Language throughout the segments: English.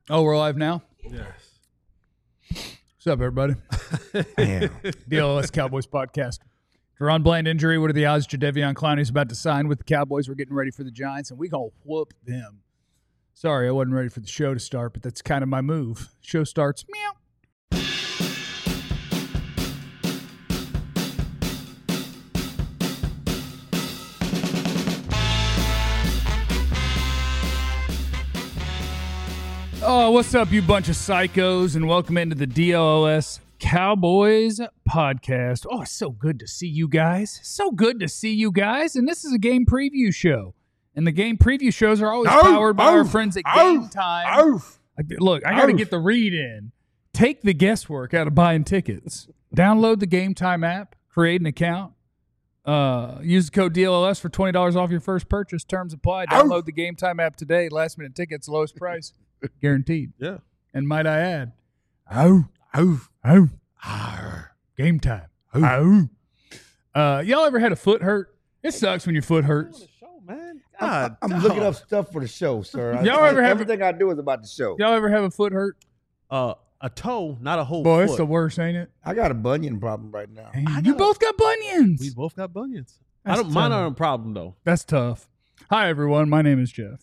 Oh, we're live now? Yes. What's up, everybody? Damn. DLS Cowboys podcast. Deron Bland injury. What are the odds Jadeveon Clowney's about to sign with the Cowboys? We're getting ready for the Giants, and we going to whoop them. Sorry, I wasn't ready for the show to start, but that's kind of my move. Show starts, meow. Oh, what's up, you bunch of psychos, and welcome into the DLS Cowboys podcast. Oh, it's so good to see you guys. So good to see you guys. And this is a game preview show. And the game preview shows are always powered by our friends at Game Time. Look, I got to get the read in. Take the guesswork out of buying tickets. Download the Game Time app. Create an account. Use the code DLS for $20 off your first purchase. Terms apply. Download the Game Time app today. Last minute tickets, lowest price. Guaranteed. Yeah. And might I add, game time. Y'all ever had a foot hurt? It sucks when your foot hurts. Show, man. I'm looking up stuff for the show, sir. Everything I do is about the show. Y'all ever have a foot hurt? A toe, not a whole Boy, foot. it's the worst, ain't it? I got a bunion problem right now. You both got bunions. We both got bunions. That's Mine tough. aren't a problem, though. That's tough. Hi, everyone. My name is Jeff.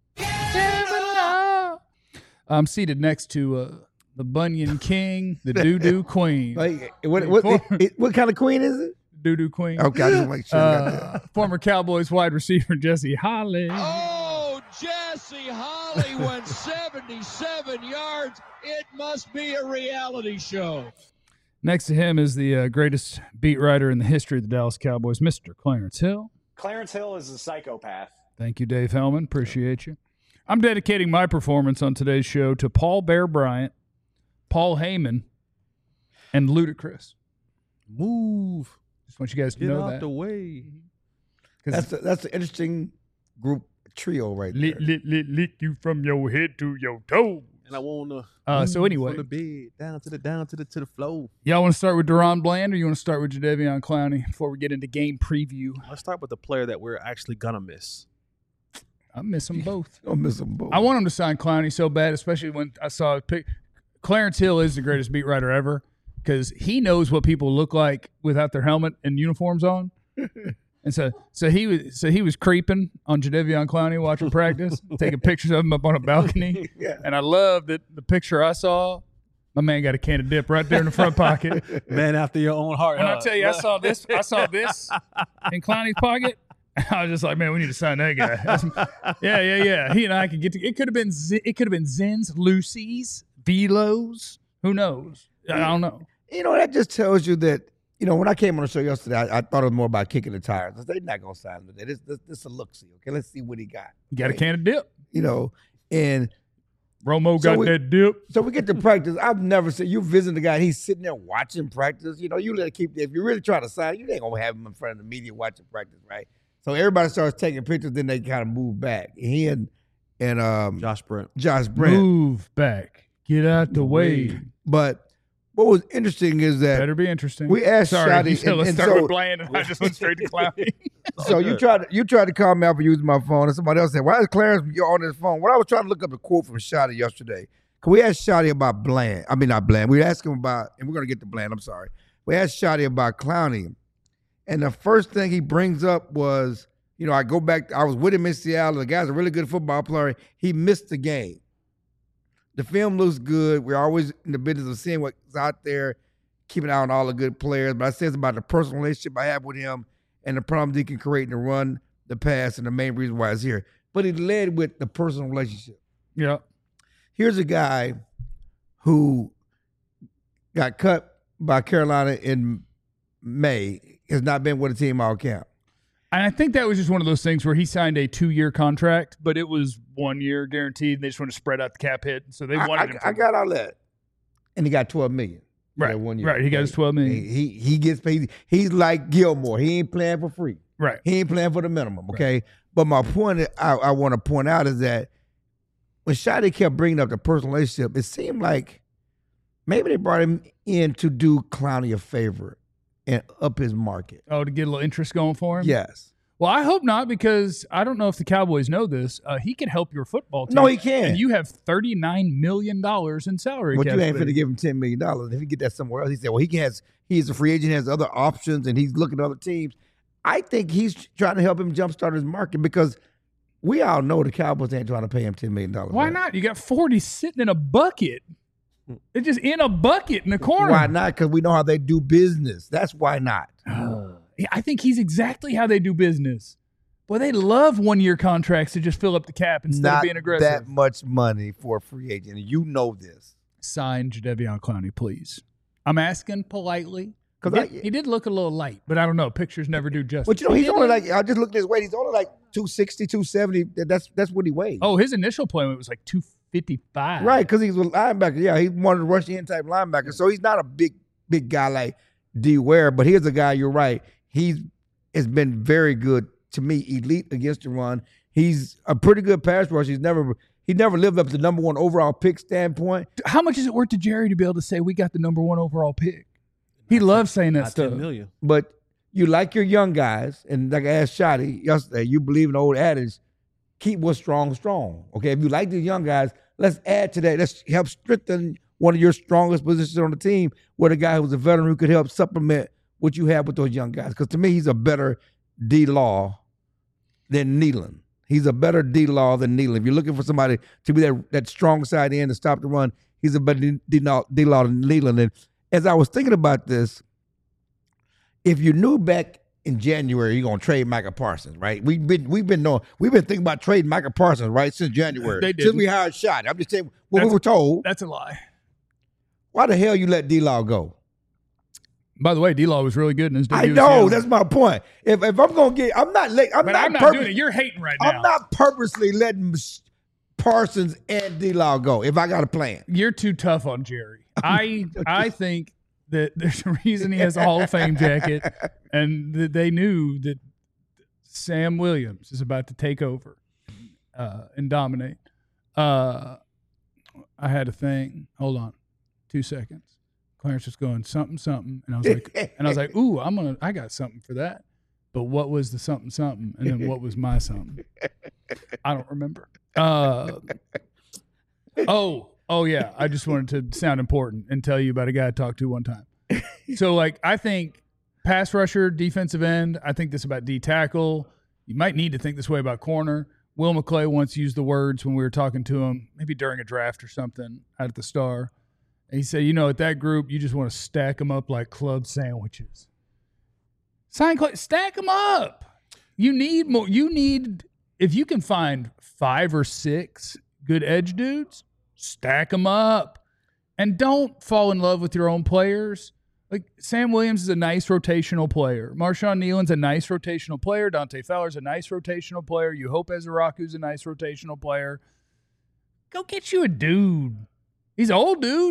I'm seated next to the Bunion King, the Doo-Doo Queen. Like, what kind of queen is it? Doo-Doo Queen. Okay, I just make sure you got that. Former Cowboys wide receiver Jesse Holly. Oh, Jesse Holly went 77 yards. It must be a reality show. Next to him is the greatest beat writer in the history of the Dallas Cowboys, Mr. Clarence Hill. Clarence Hill is a psychopath. Thank you, Dave Hellman. Appreciate you. I'm dedicating my performance on today's show to Paul Bear Bryant, Paul Heyman, and Ludacris. Move. Just want you guys to Get know out that. the way. That's an interesting group trio right there. Lick you from your head to your toe. And I want to So anyway, from the bed down to the floor. y'all want to start with Deron Bland or you want to start with Jadeveon Clowney before we get into game preview? Let's start with the player that we're actually gonna miss. I miss them both. Don't miss them both. I want him to sign Clowney so bad, especially when I saw a pic. Clarence Hill is the greatest beat writer ever because he knows what people look like without their helmet and uniforms on. And so he was creeping on Jadeveon Clowney watching practice, taking pictures of him up on a balcony. Yeah. And I love that the picture I saw, my man got a can of dip right there in the front pocket. Man after your own heart. And I'll tell you, I saw this in Clowney's pocket. I was just like, man, we need to sign that guy. Yeah. He and I could get to. It could have been Zins, Lucy's, Velos. Who knows? I don't know. You know, that just tells you that, you know, when I came on the show yesterday, I thought it was more about kicking the tires. They're not going to sign him today. This is a look-see, okay? Let's see what he got. You got a Okay? can of dip. You know, and Romo So got we- that dip. so we get to practice. I've never seen you visit the guy. He's sitting there watching practice. You know, you let keep. If you're really trying to sign, you ain't gonna have him in front of the media watching practice, right? So everybody starts taking pictures. Then they kind of move back. He and Josh Brent. Josh Brent. Move back. Get out the way. But what was interesting is that Better be interesting. we asked Sorry, Shotty, you said let's and start so, with Bland, and I just went straight to Clowney. so you tried to call me out for using my phone, and somebody else said, "Why is Clarence on his phone?" Well, I was trying to look up a quote from Shotty yesterday. Can we ask Shotty about Bland? I mean, not Bland. We asked him about, and we're gonna get to Bland. I'm sorry. We asked Shotty about Clowney, and the first thing he brings up was, you know, I go back. I was with him in Seattle. The guy's a really good football player. He missed the game. The film looks good. We're always in the business of seeing what's out there, keeping an eye on all the good players. But I says about the personal relationship I have with him and the problems he can create in the run, the pass, and the main reason why he's here. But he led with the personal relationship. Yeah. Here's a guy who got cut by Carolina in May, has not been with a team all camp. And I think that was just one of those things where he signed a 2-year contract, but it was 1 year guaranteed. They just want to spread out the cap hit. So they wanted him. I got all that. And he got $12 million. for that 1 year. Right. He got his $12 million. He gets paid. He's like Gilmore. He ain't playing for free. Right. He ain't playing for the minimum, okay? But my point I want to point out is that when Shotty kept bringing up the personal relationship, it seemed like maybe they brought him in to do Clowney a favor and up his market. Oh, to get a little interest going for him? Yes. Well, I hope not, because I don't know if the Cowboys know this. He can help your football team. No, he can. And you have $39 million in salary But cap you ain't space. finna give him $10 million. If he get that somewhere else, he said, well, he's a free agent, has other options, and he's looking at other teams. I think he's trying to help him jumpstart his market because we all know the Cowboys ain't trying to pay him $10 million. Why right? not? You got 40 sitting in a bucket. It's just in a bucket in the corner. Why not? Because we know how they do business. That's why not. I think he's exactly how they do business. Boy, they love one-year contracts to just fill up the cap instead Not of being aggressive. that much money for a free agent. And you know this. Sign Jadeveon Clowney, please. I'm asking politely. Because He did look a little light, but I don't know. Pictures never do justice. But you know, He he's did only look- like, I just looked at his weight. He's only like 260, 270. That's what he weighs. Oh, his initial play was like 255. Right, because he's a linebacker. Yeah, he's one of the rush in type linebackers. So he's not a big guy like D. Ware, but here's a guy, you're right. Has been very good to me, elite against the run. He's a pretty good pass rusher. He never lived up to the number one overall pick standpoint. How much is it worth to Jerry to be able to say we got the number one overall pick? He loves saying that Not stuff. 10 million. But you like your young guys, and like I asked Shotty yesterday, you believe in the old adage, keep what's strong. Okay, if you like the young guys, let's add to that. Let's help strengthen one of your strongest positions on the team with a guy who's a veteran who could help supplement what you have with those young guys. Because to me, he's a better D-Law than Nealon. He's a better D-Law than Nealon. If you're looking for somebody to be that strong side end to stop the run, he's a better D-Law than Nealon. And as I was thinking about this, if you knew back in January you're gonna trade Micah Parsons, right? We've been thinking about trading Micah Parsons, right, since January. They Since didn't. we hired Shot. I'm just saying what we were told. That's a lie. Why the hell you let D-Law go? By the way, D-Law was really good in his I debut. know, that's my point. If I'm gonna get, I'm not doing it. You're hating right now. I'm not purposely letting Parsons and D-Law go if I got a plan. You're too tough on Jerry. I think that there's a reason he has a Hall of Fame jacket, and that they knew that Sam Williams is about to take over and dominate. I had a thing. Hold on, 2 seconds. Clarence was going something, and I was like, ooh, I got something for that. But what was the something, and then what was my something? I don't remember. Oh yeah. I just wanted to sound important and tell you about a guy I talked to one time. So I think pass rusher, defensive end. I think this about D tackle. You might need to think this way about corner. Will McClay once used the words when we were talking to him, maybe during a draft or something out at the Star. And he said, at that group, you just want to stack them up like club sandwiches. Stack them up. You need more. If you can find 5 or 6 good edge dudes, stack them up. And don't fall in love with your own players. Like Sam Williams is a nice rotational player. Marshawn Nealon's a nice rotational player. Dante Fowler's a nice rotational player. You hope Ezraku's a nice rotational player. Go get you a dude. He's an old dude.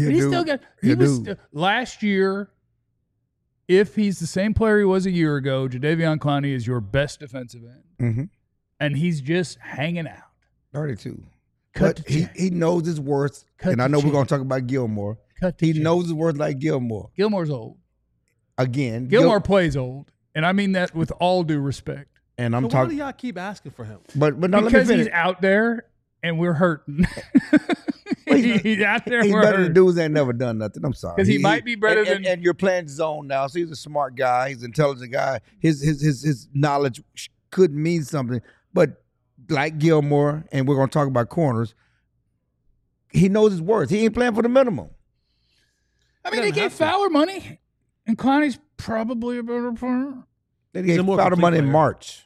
Last year, if he's the same player he was a year ago, Jadeveon Clowney is your best defensive end. Mm-hmm. And he's just hanging out. 32. But he knows his worth. And I know we're going to talk about Gilmore. He knows his worth like Gilmore. Gilmore's old. Again. Gilmore plays old. And I mean that with all due respect. And I'm Why talking. do y'all keep asking for him? But now because let me finish. he's out there and we're hurting. He's out there. He's we're better than hurting. dudes that ain't never done nothing. I'm sorry. Because he might be better than. And you're playing zone now, so he's a smart guy. He's an intelligent guy. His knowledge could mean something. But like Gilmore, and we're going to talk about corners, he knows his worth. He ain't playing for the minimum. I mean, they gave Fowler money, and Clowney's probably a better player. They gave Fowler money in March.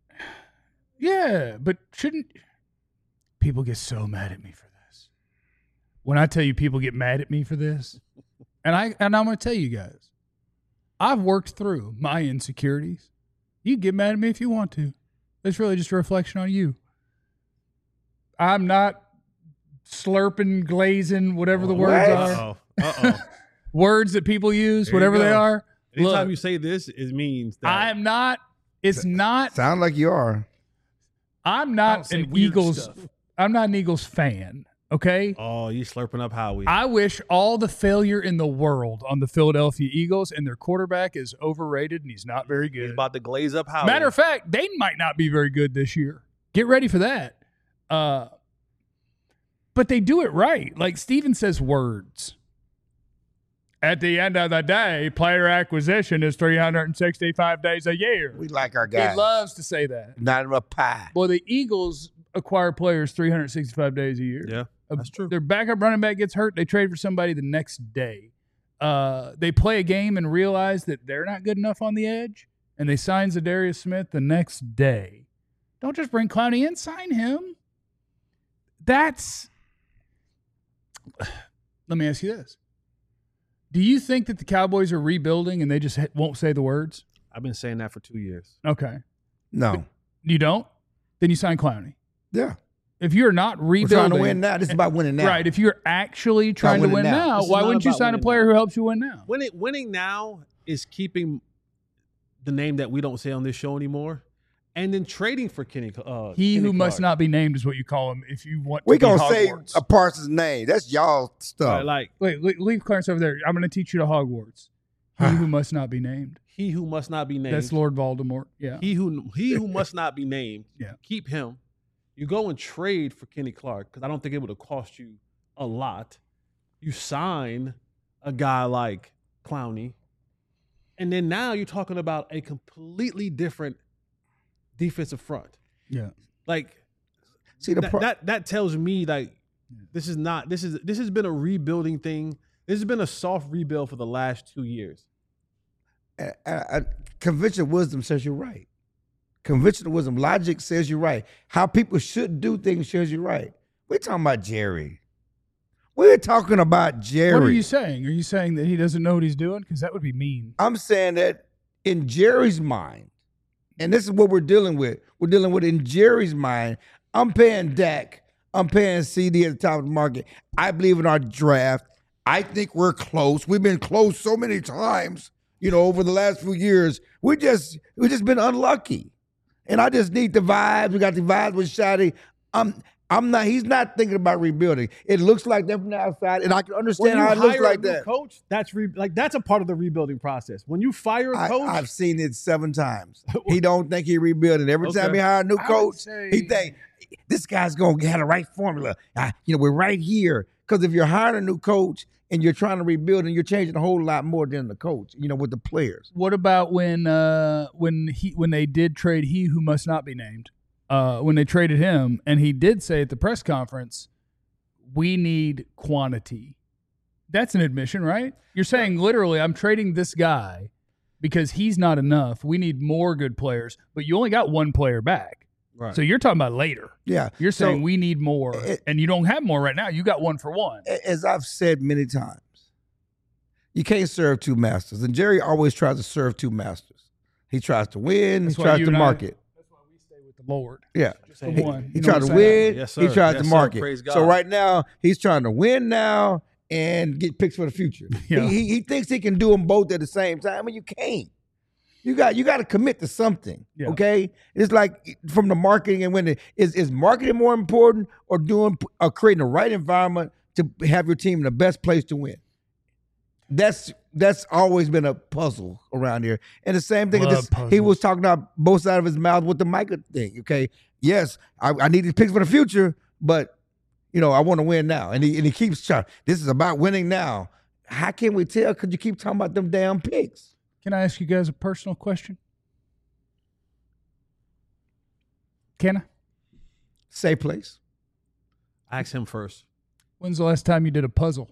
Yeah, but shouldn't people get so mad at me for this? When I tell you people get mad at me for this, and I'm going to tell you guys, I've worked through my insecurities. You can get mad at me if you want to. It's really just a reflection on you. I'm not slurping, glazing, whatever the words are. Uh-oh. Words that people use, There whatever you they go. are. Anytime Look, you say this, it means that I am not. It's not. Sound like you are. I'm Don't not say an weird Eagles. stuff. I'm not an Eagles fan. Okay? Oh, you slurping up Howie. I wish all the failure in the world on the Philadelphia Eagles, and their quarterback is overrated and he's not very good. He's about to glaze up Howie. Matter of fact, they might not be very good this year. Get ready for that. But they do it right. Like Steven says words. At the end of the day, player acquisition is 365 days a year. We like our guys. He loves to say that. Not in a pie. Well, the Eagles acquire players 365 days a year. Yeah, that's true. Their backup running back gets hurt. They trade for somebody the next day. They play a game and realize that they're not good enough on the edge, and they sign Zadarius Smith the next day. Don't just bring Clowney in. Sign him. Let me ask you this. Do you think that the Cowboys are rebuilding and they just won't say the words? I've been saying that for 2 years. Okay. No. You don't? Then you sign Clowney. Yeah. If you're not We're rebuilding. trying to win now. This is about winning now. Right. If you're actually trying to winning win now. now, This is why not wouldn't you about sign a winning player now. who helps you win now? Winning now is keeping the name that we don't say on this show anymore, and then trading for Kenny. He Kenny who must Clark. not be named is what you call him if you want to We're be going to say Hogwarts. a Parsons name. That's y'all stuff. Like Wait, leave Clarence over there. I'm going to teach you to Hogwarts. He who must not be named. he who must not be named. That's Lord Voldemort. Yeah. He who must not be named. Yeah. Keep him. You go and trade for Kenny Clark because I don't think it would have cost you a lot. You sign a guy like Clowney, and then now you're talking about a completely different defensive front. Yeah. Like, See, that tells me like this has been a rebuilding thing. This has been a soft rebuild for the last 2 years. Conventional wisdom says you're right. Conventional wisdom, logic says you're right. How people should do things says you're right. We're talking about Jerry. We're talking about Jerry. What are you saying? Are you saying that he doesn't know what he's doing? Because that would be mean. I'm saying that in Jerry's mind, and this is what we're dealing with. We're dealing with in Jerry's mind. I'm paying Dak. I'm paying CD at the top of the market. I believe in our draft. I think we're close. We've been close so many times, over the last few years. We've just been unlucky. And I just need the vibes. We got the vibes with Shotty. He's not thinking about rebuilding. It looks like that from the outside, and I can understand how it looks like that. Coach, that's a part of the rebuilding process. When you fire a coach, I've seen it 7 times. He don't think he rebuilding. Every time he hire a new coach, he think this guy's gonna have the right formula. We're right here. Because if you're hiring a new coach and you're trying to rebuild, and you're changing a whole lot more than the coach, with the players. What about when they did trade he who must not be named? When they traded him, and he did say at the press conference, we need quantity. That's an admission, right? You're saying literally, I'm trading this guy because he's not enough. We need more good players, but you only got one player back. right. So you're talking about later. Yeah. You're saying we need more, and you don't have more right now. You got 1 for 1. As I've said many times, you can't serve 2 masters. And Jerry always tries to serve 2 masters. He tries to win. That's he why tries you to and I- market. That's why we stay with the Lord. Yeah. Just the one. He You know tried what to I'm saying? win. Yes, He sir. tried Yes, to sir. market. Praise God. So right now, he's trying to win now and get picks for the future. Yeah. He thinks he can do them both at the same time. I mean, you can't. You got to commit to something. Yeah. Okay, it's like from the marketing and when is marketing more important or creating the right environment to have your team in the best place to win. That's always been a puzzle around here. And the same thing, Love he was puzzles. talking out both sides of his mouth with the Micah thing. Okay, yes, I need these picks for the future, but I want to win now. And he keeps trying. This is about winning now. How can we tell? Because you keep talking about them damn picks. Can I ask you guys a personal question? Can I? Say place. Ask him first. When's the last time you did a puzzle?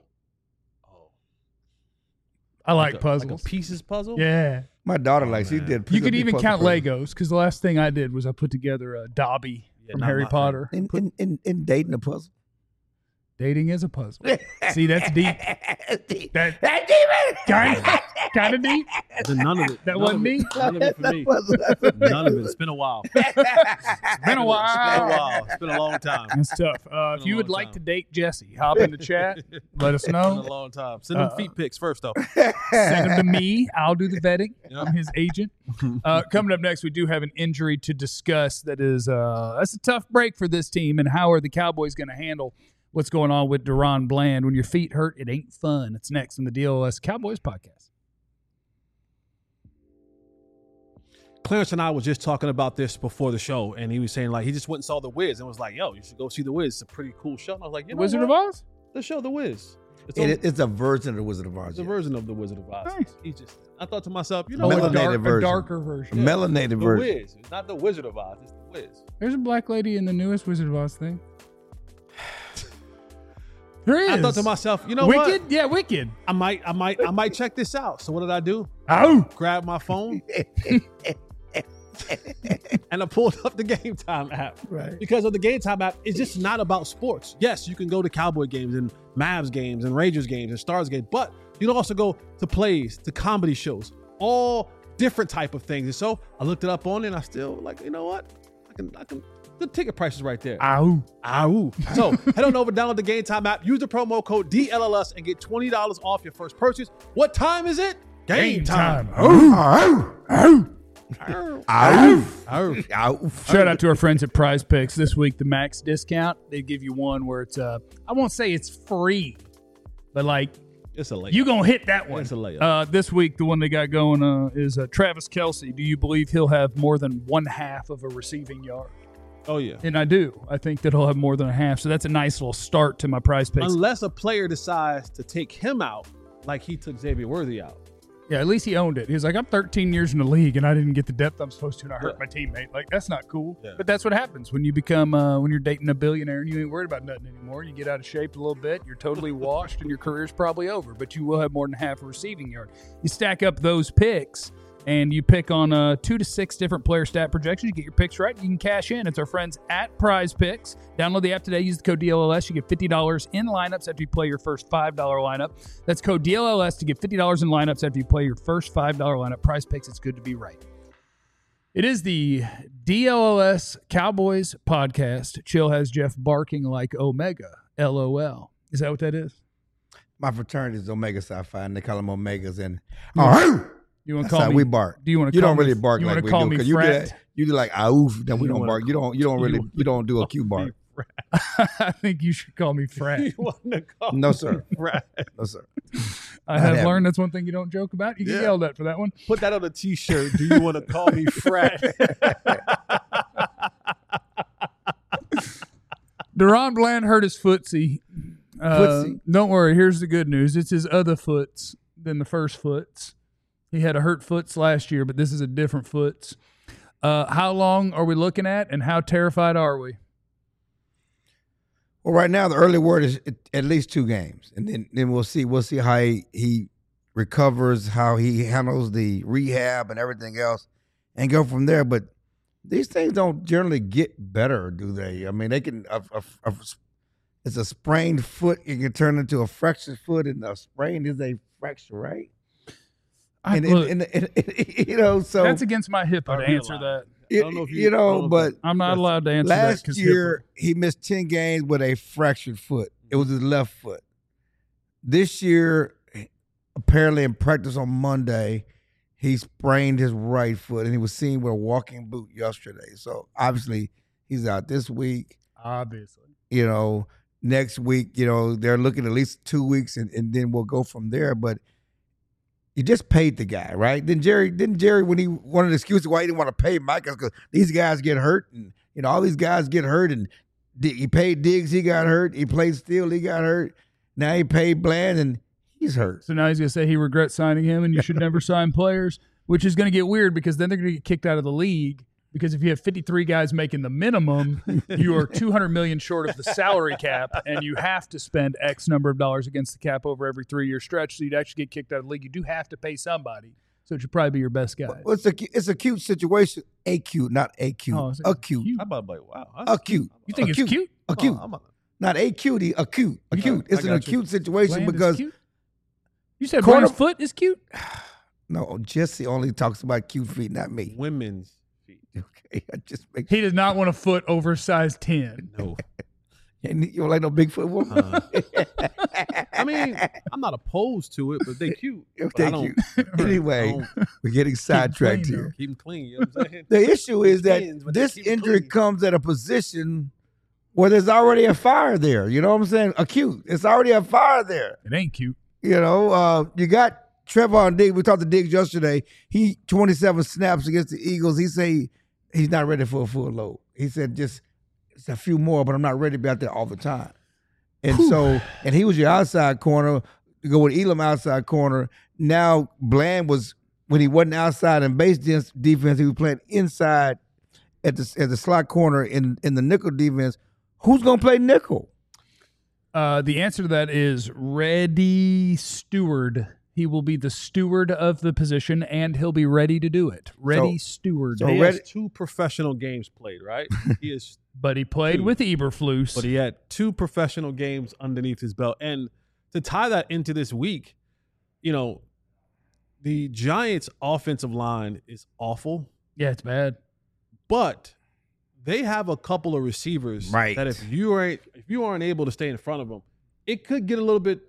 I like puzzles. Like a pieces puzzle? Yeah. My daughter likes. She did. You could even puzzle count puzzle. Legos, because the last thing I did was I put together a Dobby from not Harry my Potter. In dating a puzzle. Dating is a puzzle. See, that's deep. That's Kind of deep. None of it. That none wasn't of me? it. None of it for me. None of it. It's been a while. Been a It's been a while. while. It's been a long time. That's tough. If you would long like time. to date Jesse, hop in the chat. Let us It's been a know. long time. Send them feet pics first, though. Send them to me. I'll do the vetting. Yeah. I'm his agent. Coming up next, we do have an injury to discuss. That's a tough break for this team. And how are the Cowboys going to handle what's going on with Deron Bland. When your feet hurt, it ain't fun. It's next on the DLS Cowboys podcast. Clarence and I was just talking about this before the show, and he was saying, like, he just went and saw The Wiz and was like, yo, you should go see The Wiz. It's a pretty cool show. And I was like, you know Wizard what? of Oz? The show The Wiz. It's a version of the Wizard of Oz. It's a version of The Wizard of Oz. Nice. I thought to myself, you know Melanated what? A version. darker version. Melanated The version. Wiz. It's not The Wizard of Oz. It's The Wiz. There's a black lady in the newest Wizard of Oz thing. There is. I thought to myself, you know Wicked? what? Yeah, Wicked. I might check this out. So what did I do? Oh. Grab my phone and I pulled up the Game Time app. Right. Because of the Game Time app, it's just not about sports. Yes, you can go to Cowboy games and Mavs games and Rangers games and Stars games, but you can also go to plays, to comedy shows, all different type of things. And so I looked it up on it and I still like, you know what? I can the ticket price is right there. Ow. Ow. So head on over, download the Game Time app, use the promo code DLLS and get $20 off your first purchase. What time is it? Game time. Shout out to our friends at Prize Picks. This week, the max discount, they give you one where it's, I won't say it's free, but like, It's a layup. you going to hit that one. It's a layup. This week, the one they got going is Travis Kelce. Do you believe he'll have more than 1/2 of a receiving yard? Oh, yeah. And I do. I think that he'll have more than a half. So that's a nice little start to my Prize Picks. Unless a player decides to take him out like he took Xavier Worthy out. Yeah, at least he owned it. He was like, I'm 13 years in the league and I didn't get the depth I'm supposed to, and I hurt my teammate. Like, that's not cool. Yeah. But that's what happens when you become, when you're dating a billionaire and you ain't worried about nothing anymore. You get out of shape a little bit, you're totally washed, and your career's probably over. But you will have more than half a receiving yard. You stack up those picks, and you pick on 2 to 6 different player stat projections. You get your picks right, you can cash in. It's our friends at Prize Picks. Download the app today. Use the code DLLS. You get $50 in lineups after you play your first $5 lineup. That's code DLLS to get $50 in lineups after you play your first $5 lineup. Prize Picks, it's good to be right. It is the DLLS Cowboys podcast. Chill has Jeff barking like Omega. LOL. Is that what that is? My fraternity is Omega Psi Phi, and they call them Omegas. And You want to that's call how me? we bark. Do you want to? You don't really bark you like wanna we call do. me Because frat? you do like oof, then we You don't wanna- bark. You don't do a Q bark. I think you should call me frat. You want to call No, sir. Right. No, sir. I have Not learned that's one thing you don't joke about. You get Yeah. yelled at for that one. Put that on a T-shirt. Do you want to call me frat? Deron Bland hurt his footsie. Footsie? Don't worry. Here's the good news. It's his other foots than the first foots. He had a hurt foots last year, but this is a different foots. How long are we looking at, and how terrified are we? Well, right now the early word is at least 2 games, and then we'll see. We'll see how he recovers, how he handles the rehab and everything else, and go from there. But these things don't generally get better, do they? I mean, they can. It's a sprained foot. It can turn into a fractured foot, and a sprain is a fracture, right? You know, so That's against my HIPAA to answer realize. that. I don't know if you- but I'm not allowed to answer that. last 'cause year he missed 10 games with a fractured foot. It was his left foot. This year, apparently in practice on Monday, he sprained his right foot, and he was seen with a walking boot yesterday. So obviously he's out this week. obviously. You know, next week, you know, they're looking at least 2 weeks, and then we'll go from there. But you just paid the guy, right? Didn't Jerry, when he wanted an excuse why he didn't want to pay Mike, because these guys get hurt, and you know all these guys get hurt, and he paid Diggs, he got hurt. He played Steele, he got hurt. Now he paid Bland, and he's hurt. So now he's going to say he regrets signing him, and you should never sign players, which is going to get weird because then they're going to get kicked out of the league. Because if you have 53 guys making the minimum, you are $200 million short of the salary cap, and you have to spend X number of dollars against the cap over every 3-year stretch. So you'd actually get kicked out of the league. You do have to pay somebody, so it should probably be your best guy. Well, it's a cute situation. Acute, not acute. Oh, is it acute. I'm about to be like, wow. that's Acute. You think acute. it's cute? Acute. I'm about to- Not acute. Acute. Acute. It's I an got you. acute situation Bland is because cute? You said Corner- Bland's foot is cute? no, Jesse only talks about cute feet, not me. women's feet. Okay, I just make He does not want a foot over size 10. No. You don't like no Bigfoot woman? I mean, I'm not opposed to it, but they cute. But I Thank don't- you. Anyway, we're getting sidetracked clean, here. Keep them clean. You know what I'm saying? The issue is that Skins, but they this keep 'em injury clean. comes at a position Well, there's already a fire there. You know what I'm saying? Acute. It's already a fire there. It ain't cute. You know, you got Trevon Diggs. We talked to Diggs yesterday. He 27 snaps against the Eagles. He say he's not ready for a full load. He said just it's a few more, but I'm not ready to be out there all the time. And and he was your outside corner to go with Elam outside corner. Now Bland was when he wasn't outside in base defense, he was playing inside at the slot corner in the nickel defense. Who's gonna play nickel? The answer to that is Reddy Steward. He will be the steward of the position, and he'll be ready to do it. Reddy Steward. So he has 2 professional games played, right? But he played with Eberflus. But he had 2 professional games underneath his belt. And to tie that into this week, you know, the Giants' offensive line is awful. Yeah, it's bad. But they have a couple of receivers that if you aren't able to stay in front of them, it could get a little bit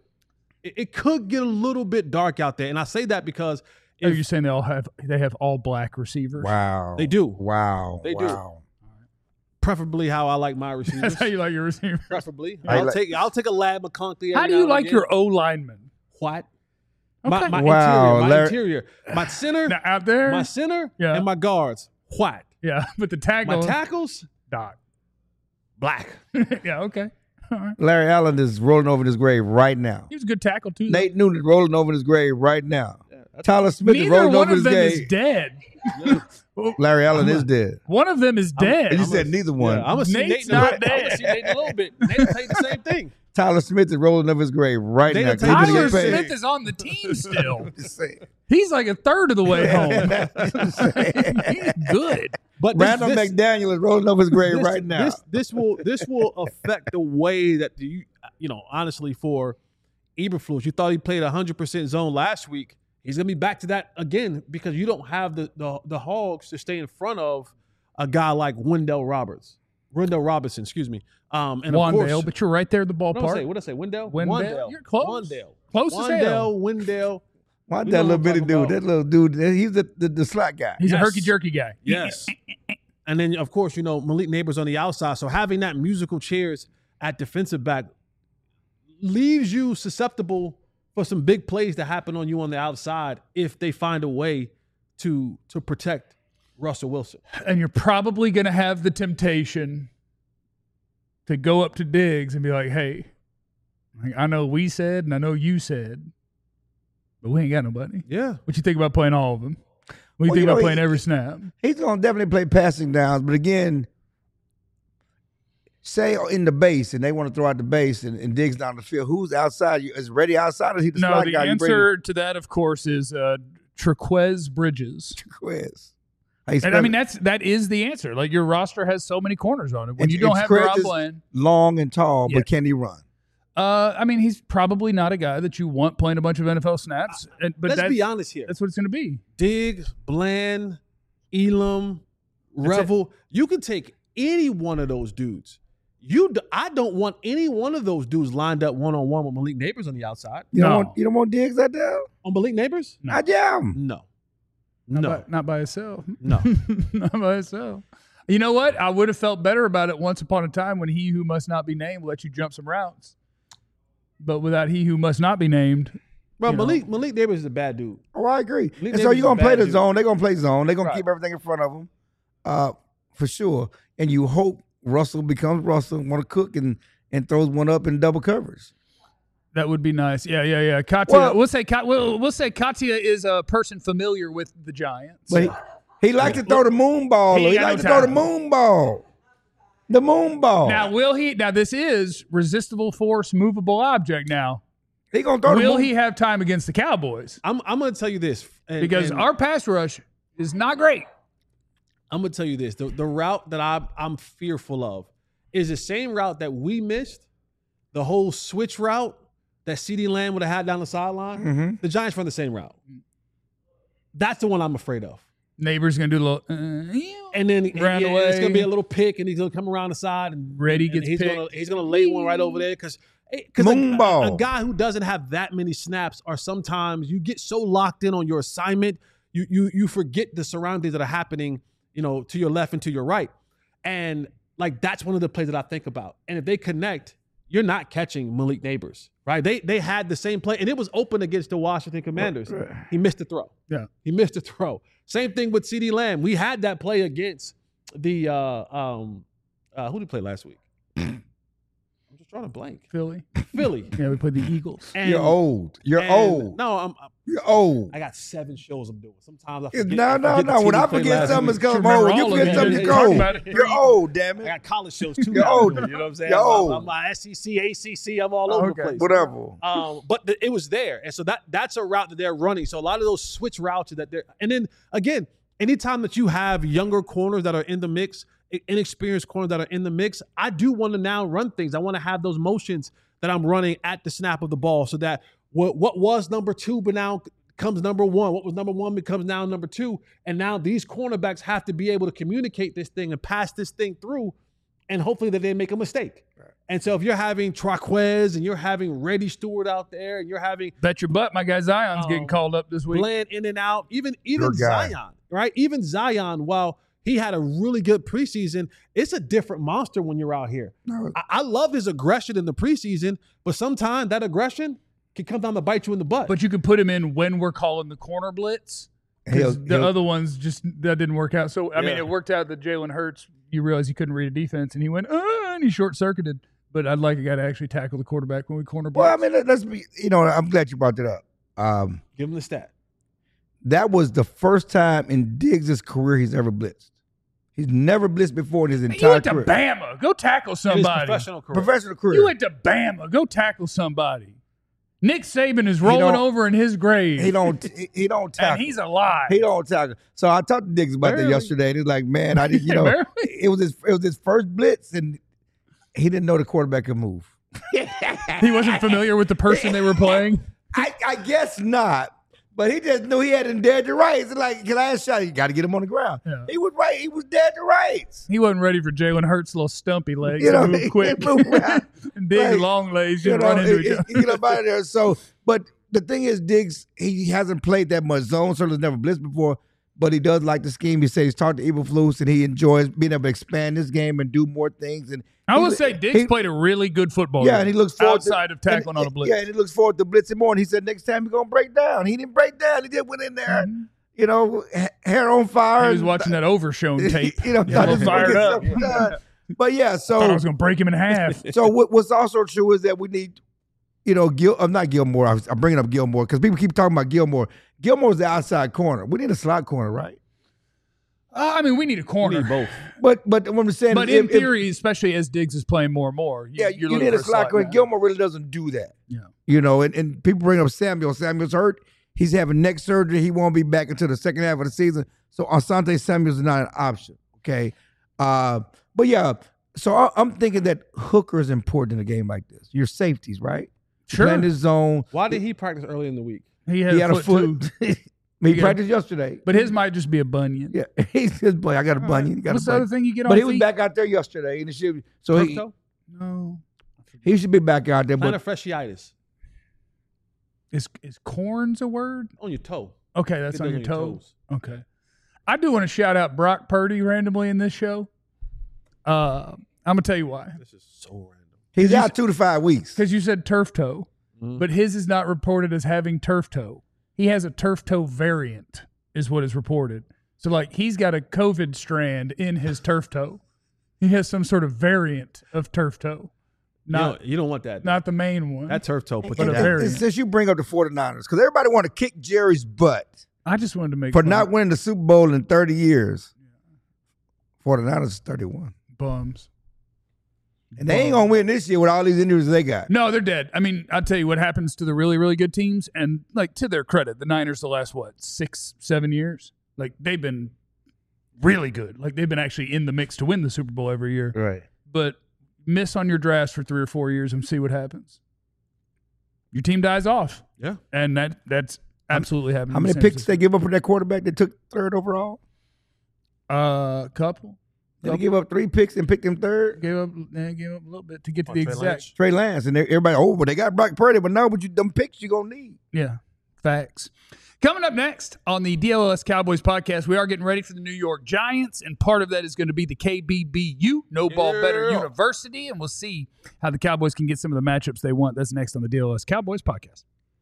dark out there. And I say that because are you saying they have all black receivers? Wow. They do. Wow. They do. Preferably how I like my receivers. That's how you like your receivers. Preferably. I'll take a Lad McConkey. How do you like your O lineman? What? Okay. My interior. My center. Now, out there? My center and my guards. What? Yeah, but the tackle. My tackles? Doc. Black. Yeah, okay. All right. Larry Allen is rolling over in his grave right now. He was a good tackle, too. Nate Noonan is rolling over in his grave right now. Tyler Smith is rolling over in his grave. Neither one of them is dead. Larry Allen is dead. One of them is dead. You said neither one. I'm going to see Nate's Nate not dead. I'm going to see Nate a little bit. Nate will tell you the same thing. Tyler Smith is rolling over his grave right now. Tyler Smith is on the team still. He's like a third of the way home. He's good. But Randall McDaniel is rolling over his grave right now. This will affect the way that honestly for Eberflus, you thought he played 100% zone last week. He's gonna be back to that again because you don't have the Hogs to stay in front of a guy like Wendell Robinson, excuse me. And Wandale, of course, but you're right there at the ballpark. What did I say? Wendell? You're close. Wandale. Close as hell. Wendell. Why that little bitty dude? That little dude, he's the slot guy. He's a herky-jerky guy. Yes. And then, of course, Malik Neighbors on the outside. So having that musical chairs at defensive back leaves you susceptible for some big plays to happen on you on the outside if they find a way to protect Russell Wilson. And you're probably going to have the temptation to go up to Diggs and be like, hey, I know we said and I know you said, but we ain't got nobody. Yeah. What you think about playing all of them? What do you think about playing every snap? He's going to definitely play passing downs, but again, say in the base and they want to throw out the base and Diggs down the field, who's outside? Is Reddy outside or is he the slot guy? No, the answer to that, of course, is Trequez Bridges. Trequez. And I mean, that is the answer. Like, your roster has so many corners on it. When you don't have Rob Bland. Long and tall, but can he run? I mean, he's probably not a guy that you want playing a bunch of NFL snaps. But let's be honest here. That's what it's going to be. Diggs, Bland, Elam, Revel. You can take any one of those dudes. I don't want any one of those dudes lined up one-on-one with Malik Neighbors on the outside. You don't want Diggs out there? On Malik Neighbors? No. No. Not by itself. No. Not by itself. You know what? I would have felt better about it once upon a time when he who must not be named let you jump some routes. But without he who must not be named. Bro, Malik Neighbors is a bad dude. Oh, I agree. And so you're going to play the zone. They're going to play zone. They're going to keep everything in front of them for sure. And you hope Russell becomes Russell, want to cook and throws one up in double coverage. That would be nice. Yeah. Katia, we'll say Katia is a person familiar with the Giants. But he likes to throw the moon ball. He likes to throw the moon ball. The moon ball. Now, Now, this is resistible force, movable object. Now, he gonna throw. Will he have time against the Cowboys? I'm going to tell you this because our pass rush is not great. I'm going to tell you this: the route that I'm fearful of is the same route that we missed, the whole switch route that CeeDee Lamb would have had down the sideline. Mm-hmm. The Giants run the same route. That's the one I'm afraid of. Neighbor's gonna do a little, and then it's gonna be a little pick, and he's gonna come around the side, and Reddy gets picked. He's gonna lay one right over there because a guy who doesn't have that many snaps, or sometimes you get so locked in on your assignment, you forget the surroundings that are happening, to your left and to your right. And like that's one of the plays that I think about. And if they connect, you're not catching Malik Neighbors, right? They had the same play, and it was open against the Washington Commanders. He missed the throw. Yeah. He missed the throw. Same thing with CeeDee Lamb. We had that play against the who did he play last week? I'm just trying to blank. Philly. Yeah, we played the Eagles. And, You're old. You're old. No, You're old. I got 7 shows I'm doing. Sometimes I forget. No. When I forget something, it's because I'm Remember old. You all of forget it. something, You it's talk cold. about it. You're old, damn I it. got college shows too. You're now. old. You know what I'm saying? You're old. I'm SEC, ACC. I'm all over the place. Whatever. But it was there, and so that's a route that they're running. So a lot of those switch routes that they're, and then again, anytime that you have younger corners that are in the mix, inexperienced corners that are in the mix, I do want to now run things. I want to have those motions that I'm running at the snap of the ball, so that what was number 2, but now comes number 1. What was number 1 becomes now number 2, and now these cornerbacks have to be able to communicate this thing and pass this thing through, and hopefully that they make a mistake. Right. And so if you're having Traquez and you're having Reddy Stewart out there, and you're having bet your butt, my guy Zion's getting called up this week. Bland in and out, even Zion, right? Even Zion, while he had a really good preseason, it's a different monster when you're out here. No. I love his aggression in the preseason, but sometimes that aggression can come down to bite you in the butt. But you can put him in when we're calling the corner blitz. The other ones that didn't work out. So, I mean, it worked out that Jalen Hurts, you realize he couldn't read a defense, and he went, and he short-circuited. But I'd like a guy to actually tackle the quarterback when we corner blitz. Well, I mean, let's be, I'm glad you brought that up. Give him the stat. That was the first time in Diggs' career he's ever blitzed. He's never blitzed before in his entire career. You went to Bama. Go tackle somebody. Professional career. You went to Bama. Go tackle somebody. Nick Saban is rolling over in his grave. He don't tackle. And he's alive. He don't tackle. So I talked to Diggs about that yesterday, and he's like, "Man, I didn't. It was his first blitz, and he didn't know the quarterback could move. He wasn't familiar with the person they were playing. I guess not." But he just knew he hadn't dared to rights. Like, last shot, you got to get him on the ground. Yeah. He was right. He was dead to rights. He wasn't ready for Jalen Hurts' little stumpy legs to move quick. And Diggs' long legs just run into each other. Get up out of there. So, but the thing is, Diggs, he hasn't played that much zone, so he's never blitzed before. But he does like the scheme. He says he's talked to Eberflus, and he enjoys being able to expand this game and do more things. And I will say Diggs played a really good football game. Yeah, and he looks forward outside of tackling on a blitz. Yeah, and he looks forward to blitzing more. And he said next time he's going to break down. He didn't break down. He just went in there, hair on fire. He was watching that Overshown tape. Fired up. But yeah, so I thought I was going to break him in half. So what's also true is that we need, not Gilmore. I'm bringing up Gilmore because people keep talking about Gilmore. Gilmore's the outside corner. We need a slot corner, right? I mean, we need a corner. We need both. But what I'm saying but in theory, especially as Diggs is playing more and more, you need a slot corner. Gilmore really doesn't do that. Yeah. And people bring up Samuel. Samuel's hurt. He's having neck surgery. He won't be back until the second half of the season. So Asante Samuel's not an option. Okay. But yeah, so I'm thinking that hooker is important in a game like this. Your safeties, right? Sure. Playing his zone. Why did he practice early in the week? He had a foot. He practiced yesterday. But his might just be a bunion. Yeah. He's his boy. I got a bunion. What's the other thing you get on But he feet? was back out there yesterday. And No. He should be back out there. Plantar fasciitis. Is corns a word? On your toe. Okay, that's on your toes. Okay. I do want to shout out Brock Purdy randomly in this show. I'm going to tell you why. This is so random. He's out 2 to 5 weeks. Because you said turf toe, but his is not reported as having turf toe. He has a turf toe variant is what is reported. So, he's got a COVID strand in his turf toe. He has some sort of variant of turf toe. You don't want that. Not the main one. That turf toe. But a variant. Since you bring up the 49ers, because everybody want to kick Jerry's butt. I just wanted to make for not winning the Super Bowl in 30 years. 49ers is 31. Bums. And they ain't going to win this year with all these injuries they got. No, they're dead. I mean, I'll tell you what happens to the really, really good teams. And, to their credit, the Niners the last, 6-7 years? They've been really good. They've been actually in the mix to win the Super Bowl every year. Right. But miss on your drafts for 3 or 4 years and see what happens. Your team dies off. Yeah. And that's absolutely happening. How many picks they give up for that quarterback that took 3rd overall? Couple. Did they give up 3 picks and picked him 3rd? Gave up a little bit to get to the exact. Trey Lance. And everybody, but they got Brock Purdy. But no, but them picks you're going to need. Yeah, facts. Coming up next on the DLS Cowboys podcast, we are getting ready for the New York Giants, and part of that is going to be the KBBU, No Ball Better University, and we'll see how the Cowboys can get some of the matchups they want. That's next on the DLS Cowboys podcast.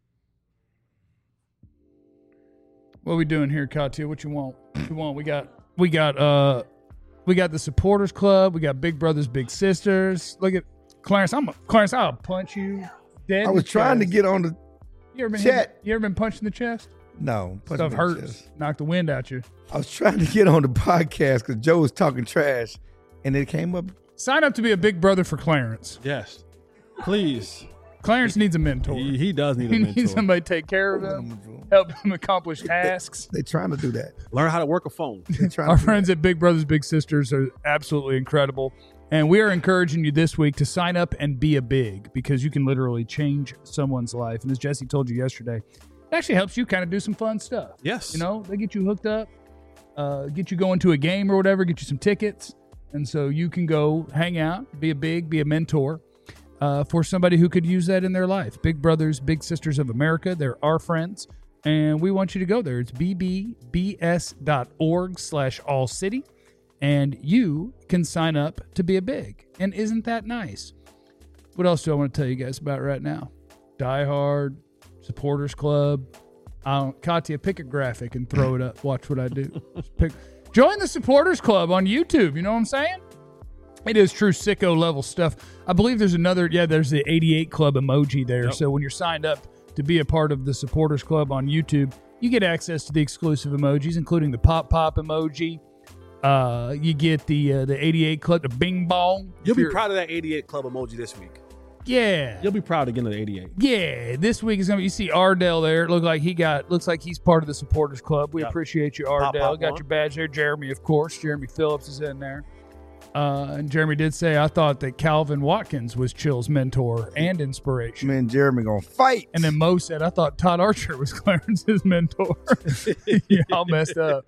What are we doing here, Katia? What you want? What you want? We got the supporters club. We got Big Brothers, Big Sisters. Look at Clarence. I'll punch you dead. I was trying to get on the you ever been punched in the chest? No. Stuff hurts. Knock the wind out you. I was trying to get on the podcast because Joe was talking trash, and it came up. Sign up to be a big brother for Clarence. Yes. Please. Clarence needs a mentor. He does need a He mentor. needs somebody to take care of him, help him accomplish tasks. They're trying to do that. Learn how to work a phone. Our friends at Big Brothers Big Sisters are absolutely incredible. And we are encouraging you this week to sign up and be a big, because you can literally change someone's life. And as Jesse told you yesterday, it actually helps you kind of do some fun stuff. Yes. You know, they get you hooked up, get you going to a game or whatever, get you some tickets. And so you can go hang out, be a big, be a mentor for somebody who could use that in their life. Big Brothers Big Sisters of America, they're our friends. And we want you to go there. It's bbbs.org/allcity. And you can sign up to be a big. And isn't that nice? What else do I want to tell you guys about right now? Die Hard, Supporters Club. Katya, pick a graphic and throw it up. Watch what I do. Join the Supporters Club on YouTube. You know what I'm saying? It is true sicko level stuff. I believe there's there's the 88 Club emoji there. Yep. So when you're signed up to be a part of the Supporters Club on YouTube, you get access to the exclusive emojis, including the pop emoji. You get the 88 Club, the bing bong. You'll be proud of that 88 Club emoji this week. Yeah. You'll be proud again of the 88. Yeah. This week is going to be, you see Ardell there. It looks like he's part of the Supporters Club. We appreciate you, Ardell. Got your badge there. Jeremy, of course. Jeremy Phillips is in there. And Jeremy did say, I thought that Calvin Watkins was Chill's mentor and inspiration. Man, Jeremy gonna fight. And then Mo said, I thought Todd Archer was Clarence's mentor. Yeah, all messed up.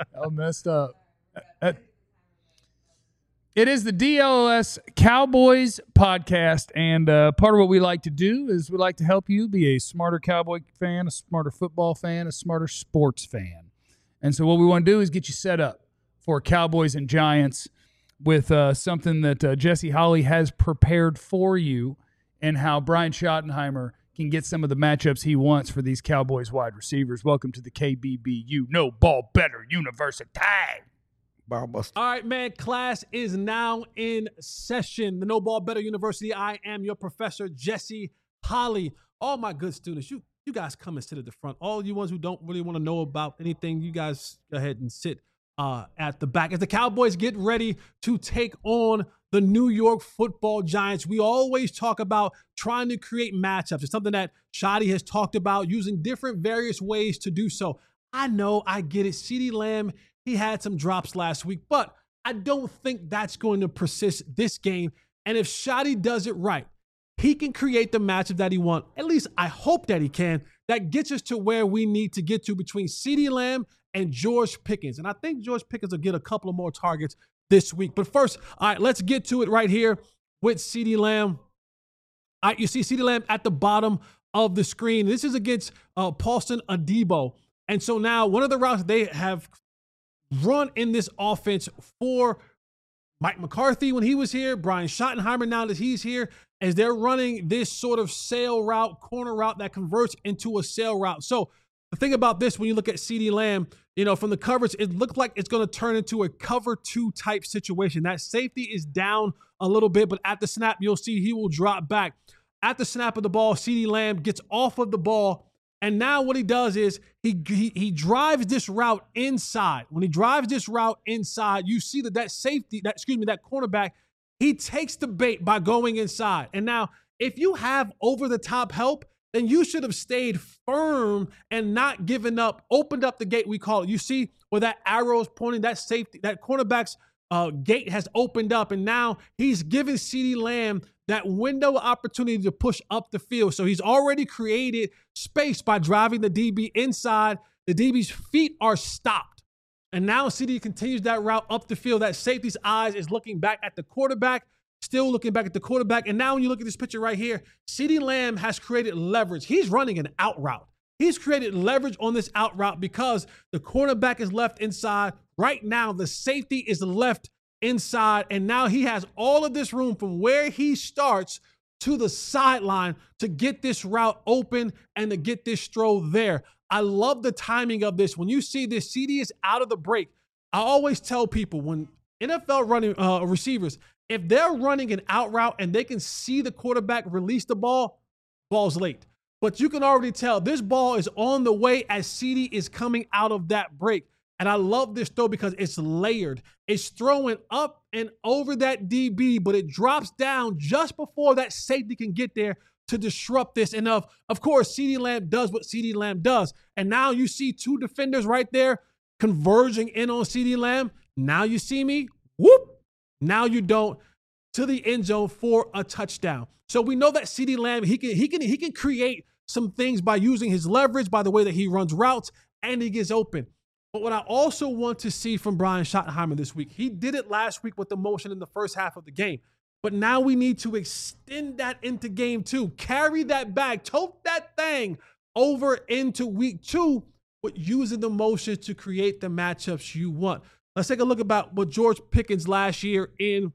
It is the DLS Cowboys podcast, and part of what we like to do is we like to help you be a smarter Cowboy fan, a smarter football fan, a smarter sports fan. And so what we want to do is get you set up for Cowboys and Giants with something that Jesse Holley has prepared for you, and how Brian Schottenheimer can get some of the matchups he wants for these Cowboys wide receivers. Welcome to the KBBU, No Ball Better University. All right, man. Class is now in session. The No Ball Better University. I am your professor, Jesse Holley. All my good students, you guys come and sit at the front. All you ones who don't really want to know about anything, you guys go ahead and sit at the back. As the Cowboys get ready to take on the New York Football Giants, we always talk about trying to create matchups. It's something that Shotty has talked about, using different various ways to do so. I know, I get it. CeeDee Lamb, he had some drops last week, but I don't think that's going to persist this game. And if Shotty does it right, he can create the matchup that he wants. At least I hope that he can. That gets us to where we need to get to between CeeDee Lamb and George Pickens. And I think George Pickens will get a couple of more targets this week. But first, all right, let's get to it right here with CeeDee Lamb. All right, you see CeeDee Lamb at the bottom of the screen. This is against Paulson Adebo. And so now one of the routes they have run in this offense for Mike McCarthy when he was here, Brian Schottenheimer now that he's here, as they're running this sort of sail route, corner route that converts into a sail route. So the thing about this, when you look at CeeDee Lamb, from the coverage, it looked like it's going to turn into a cover 2 type situation. That safety is down a little bit, but at the snap, you'll see he will drop back. At the snap of the ball, CeeDee Lamb gets off of the ball, and now what he does is he drives this route inside. When he drives this route inside, you see that cornerback, he takes the bait by going inside. And now, if you have over-the-top help, then you should have stayed firm and not given up, opened up the gate, we call it. You see where that arrow is pointing, that safety, that cornerback's gate has opened up, and now he's giving CeeDee Lamb that window of opportunity to push up the field. So he's already created space by driving the DB inside. The DB's feet are stopped. And now CeeDee continues that route up the field. That safety's eyes is looking back at the quarterback, still looking back at the quarterback. And now when you look at this picture right here, CeeDee Lamb has created leverage. He's running an out route. He's created leverage on this out route because the cornerback is left inside. Right now, the safety is left inside, and now he has all of this room from where he starts to the sideline to get this route open and to get this throw there. I love the timing of this. When you see this, CD is out of the break. I always tell people when NFL running receivers, if they're running an out route and they can see the quarterback release the ball, ball's late. But you can already tell this ball is on the way as CD is coming out of that break. And I love this throw because it's layered. It's throwing up and over that DB, but it drops down just before that safety can get there to disrupt this. And of course, CeeDee Lamb does what CeeDee Lamb does. And now you see two defenders right there converging in on CeeDee Lamb. Now you see me, whoop. Now you don't, to the end zone for a touchdown. So we know that CeeDee Lamb, he can create some things by using his leverage, by the way that he runs routes, and he gets open. But what I also want to see from Brian Schottenheimer this week, he did it last week with the motion in the first half of the game. But now we need to extend that into game 2. Carry that bag, tote that thing over into week 2 with using the motion to create the matchups you want. Let's take a look about what George Pickens last year in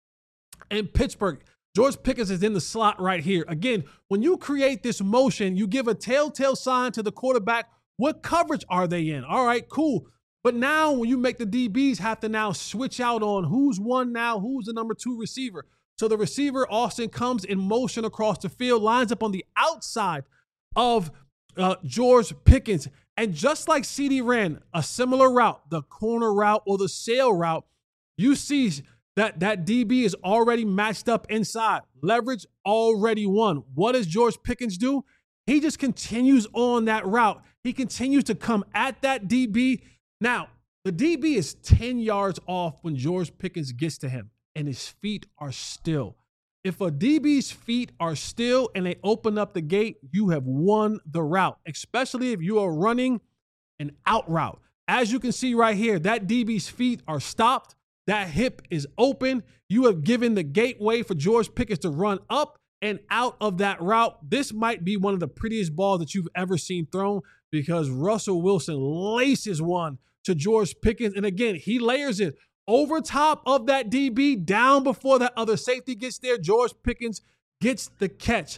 Pittsburgh. George Pickens is in the slot right here. Again, when you create this motion, you give a telltale sign to the quarterback. What coverage are they in? All right, cool. But now when you make the DBs have to now switch out on who's one now, who's the number 2 receiver. So the receiver, Austin, comes in motion across the field, lines up on the outside of George Pickens. And just like CD ran a similar route, the corner route or the sail route, you see that DB is already matched up inside. Leverage already won. What does George Pickens do? He just continues on that route. He continues to come at that DB. Now, the DB is 10 yards off when George Pickens gets to him, and his feet are still. If a DB's feet are still and they open up the gate, you have won the route, especially if you are running an out route. As you can see right here, that DB's feet are stopped. That hip is open. You have given the gateway for George Pickens to run up and out of that route. This might be one of the prettiest balls that you've ever seen thrown because Russell Wilson laces one to George Pickens. And again, he layers it over top of that DB, down before that other safety gets there. George Pickens gets the catch.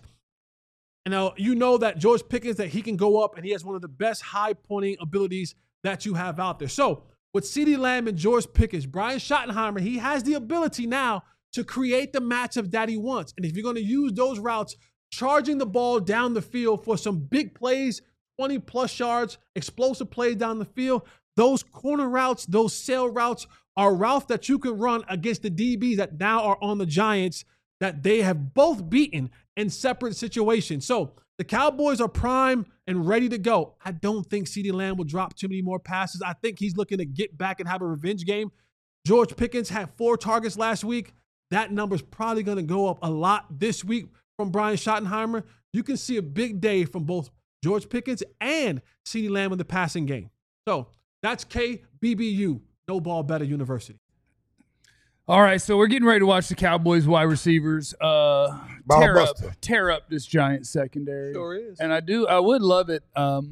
And now you know that George Pickens, that he can go up and he has one of the best high pointing abilities that you have out there. So with CeeDee Lamb and George Pickens, Brian Schottenheimer, he has the ability now to create the matchup that he wants. And if you're going to use those routes, charging the ball down the field for some big plays, 20-plus yards, explosive plays down the field, those corner routes, those sail routes are routes that you can run against the DBs that now are on the Giants that they have both beaten in separate situations. So the Cowboys are prime and ready to go. I don't think CeeDee Lamb will drop too many more passes. I think he's looking to get back and have a revenge game. George Pickens had 4 targets last week. That number's probably going to go up a lot this week from Brian Schottenheimer. You can see a big day from both George Pickens and CeeDee Lamb in the passing game. So that's KBBU, No Ball Better University. All right, so we're getting ready to watch the Cowboys wide receivers tear up this Giant secondary. Sure is. And I would love it.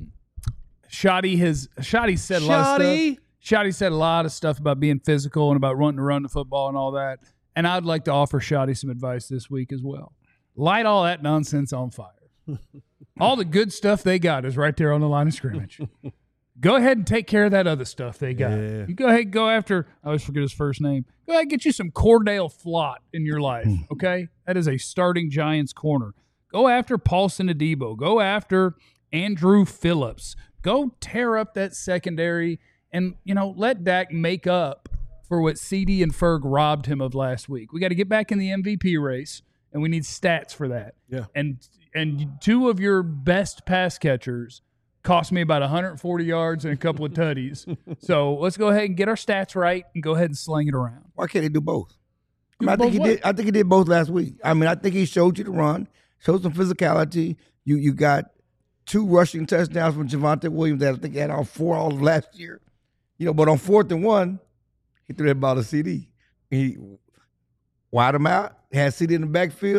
Shotty said a lot of stuff. Shotty said a lot of stuff about being physical and about wanting to run the football and all that. And I'd like to offer Shotty some advice this week as well. Light all that nonsense on fire. All the good stuff they got is right there on the line of scrimmage. Go ahead and take care of that other stuff they got. Yeah. You go ahead and go after, I always forget his first name. Go ahead and get you some Cordell Flott in your life, okay? That is a starting Giants corner. Go after Paulson Adebo. Go after Andrew Phillips. Go tear up that secondary and, let Dak make up for what CD and Ferg robbed him of last week. We got to get back in the MVP race, and we need stats for that. Yeah. And 2 of your best pass catchers cost me about 140 yards and a couple of tutties. So let's go ahead and get our stats right and go ahead and sling it around. Why can't he do both? I think he did both last week. I think he showed you the run, showed some physicality. You got 2 rushing touchdowns from Javonte Williams that I think he had all 4 all of last year. But on 4th and 1, he threw that ball to CD. He wide him out, had CD in the backfield,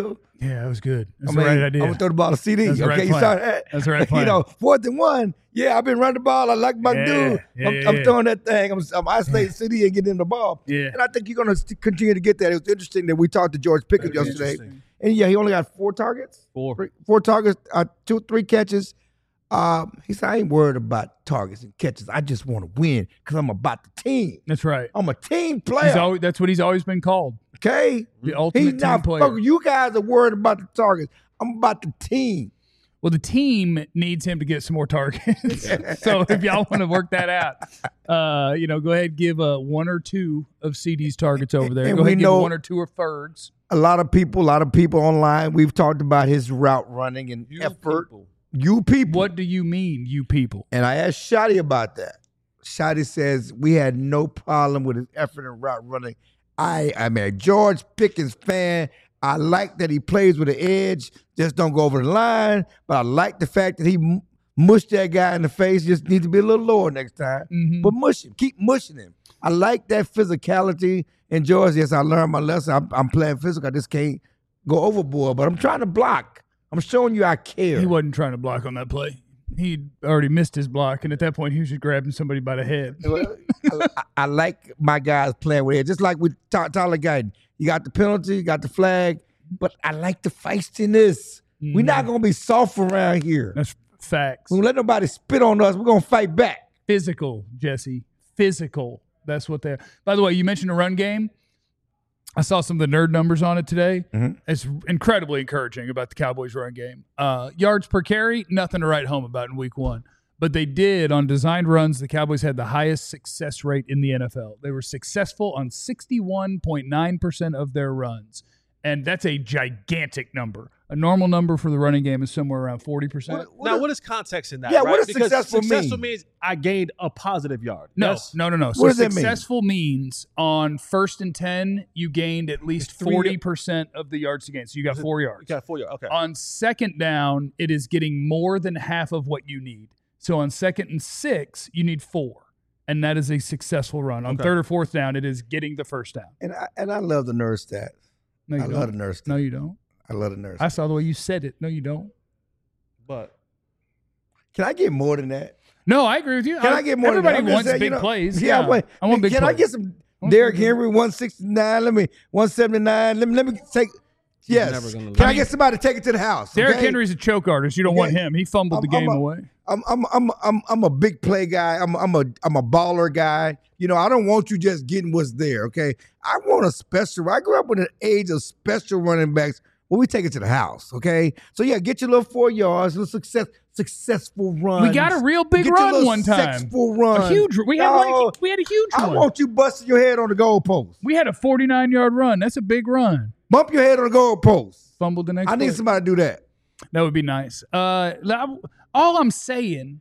Yeah, that was good. That's I the mean, right I'm idea. gonna throw the ball to CD. That's the right Okay, you plan. saw that? That's the right plan. You know, 4th and 1. Yeah, I've been running the ball. I like my dude. I'm throwing that thing. I'm isolating CD and getting him the ball. Yeah. And I think you're gonna continue to get that. It was interesting that we talked to George Pickens Very yesterday, interesting. and yeah, he only got 4 targets. 4. 4 targets, 3 catches. He said, I ain't worried about targets and catches. I just want to win because I'm about the team. That's right. I'm a team player. That's what he's always been called. Okay? The ultimate He's team not player. fucking. You guys are worried about the targets. I'm about the team. Well, the team needs him to get some more targets. So if y'all want to work that out, go ahead and give 1 or 2 of CD's targets over there. And Go ahead we and give know- 1 or 2 of Ferg's. A lot of people online, we've talked about his route running and effort. You people. What do you mean, you people? And I asked Shotty about that. Shotty says we had no problem with his effort and route running. I'm a George Pickens fan. I like that he plays with an edge. Just don't go over the line. But I like the fact that he mushed that guy in the face. Just needs to be a little lower next time. Mm-hmm. But mush him. Keep mushing him. I like that physicality. And George, yes, I learned my lesson. I'm playing physical. I just can't go overboard. But I'm trying to block. I'm showing you I care. He wasn't trying to block on that play. He'd already missed his block, and at that point, he was just grabbing somebody by the head. I like my guys playing with it. Just like with Tyler Guyton. You got the penalty, you got the flag, but I like the feistiness. We're not going to be soft around here. That's facts. We don't let nobody spit on us. We're going to fight back. Physical, Jesse. Physical. That's what they're. By the way, you mentioned a run game. I saw some of the nerd numbers on it today. Mm-hmm. It's incredibly encouraging about the Cowboys' run game. Yards per carry, nothing to write home about in week 1. But they did, on designed runs, the Cowboys had the highest success rate in the NFL. They were successful on 61.9% of their runs. And that's a gigantic number. A normal number for the running game is somewhere around 40%. Now, what is context in that? Yeah, right? what does Because successful successful mean? means I gained a positive yard. No, Yes? no. So What does that mean? successful means on 1st and 10, you gained at least 40% of the yards to gain. So you got 4 yards. You got 4 yards. Okay. On 2nd down, it is getting more than half of what you need. So on 2nd and 6, you need 4. And that is a successful run. On Okay. 3rd or 4th down, it is getting the first down. And I love the nerd stats. No, you I don't. love the nerd stats. No, you don't. I love the nerd I stats. saw the way you said it. No, you don't. But Can I get more than that? No, I agree with you. Can I get more Everybody than that? I'm just wants saying, big you know, plays. Yeah, but I want big can plays. I get some Derrick Henry 169? Let me 179. Let me take. Yes. never gonna Can I lose. get somebody to take it to the house? Derrick okay? Henry's a choke artist. You don't want him. He fumbled the game away. I'm a big play guy. I'm a baller guy. You know, I don't want you just getting what's there. Okay, I want a special. I grew up in an age of special running backs where we take it to the house. Okay, so yeah, get your little 4 yards, little successful run. We got a real big run one time. Successful run. A huge. We had a huge I one. want you busting your head on the goalpost. We had a 49-yard run. That's a big run. Bump your head on the goalpost. Fumbled the next. I need play. somebody to do that. That would be nice. All I'm saying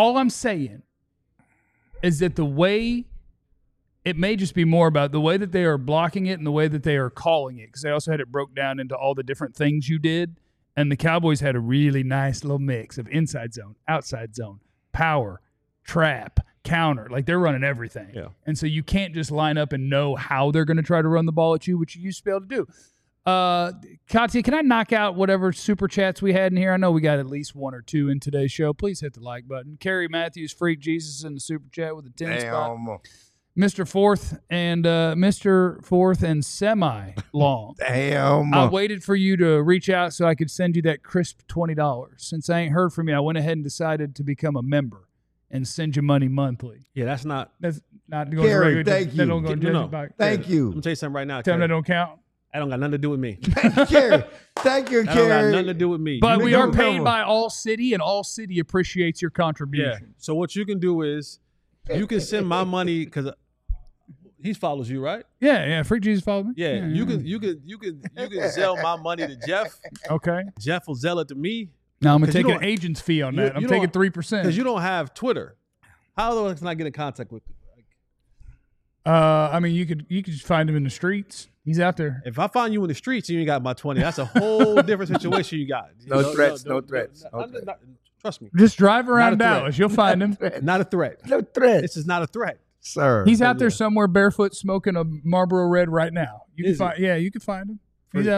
is that the way it may just be more about the way that they are blocking it and the way that they are calling it, because they also had it broke down into all the different things you did. And the Cowboys had a really nice little mix of inside zone, outside zone, power, trap, counter. Like they're running everything. Yeah. And so you can't just line up and know how they're going to try to run the ball at you, which you used to be able to do. Katya, can I knock out whatever super chats we had in here? I know we got at least 1 or 2 in today's show. Please hit the like button. Carrie Matthews, Freak Jesus in the super chat with a 10 spot. Mr. Fourth and semi long. Damn. I waited for you to reach out so I could send you that crisp $20. Since I ain't heard from you, I went ahead and decided to become a member and send you money monthly. yeah, that's not. That's not going Gary, to regular. thank That you. don't go to No. Judge's Box. Thank Let you. me tell you something right now. Tell them that Kerry. don't count. That don't got nothing to do with me. Carrie. Thank you, That don't got Carrie. nothing to do with me. But You we can are do- paid by All City, and All City appreciates your Yeah. contribution. So what you can do is you can send my money because he follows you, right? Yeah. Freak Jesus follow me. Yeah. You can sell my money to Jeff. Okay. Jeff will sell it to me Now I'm gonna 'Cause you take an don't- agent's fee on you- that. I'm you taking don't- 3%. because you don't have Twitter. How else can I get in contact with you? I mean, you could just find him in the streets. He's out there. If I find you in the streets and you ain't got my 20, that's a whole different situation you got. No threats, no threats. Trust me. Just drive around Not a threat. Dallas. You'll find him. Not a threat. No threat. This is not a threat. Sir. He's out there somewhere barefoot smoking a Marlboro Red right now. You can Is he? find. Yeah, you can find him. He's out there.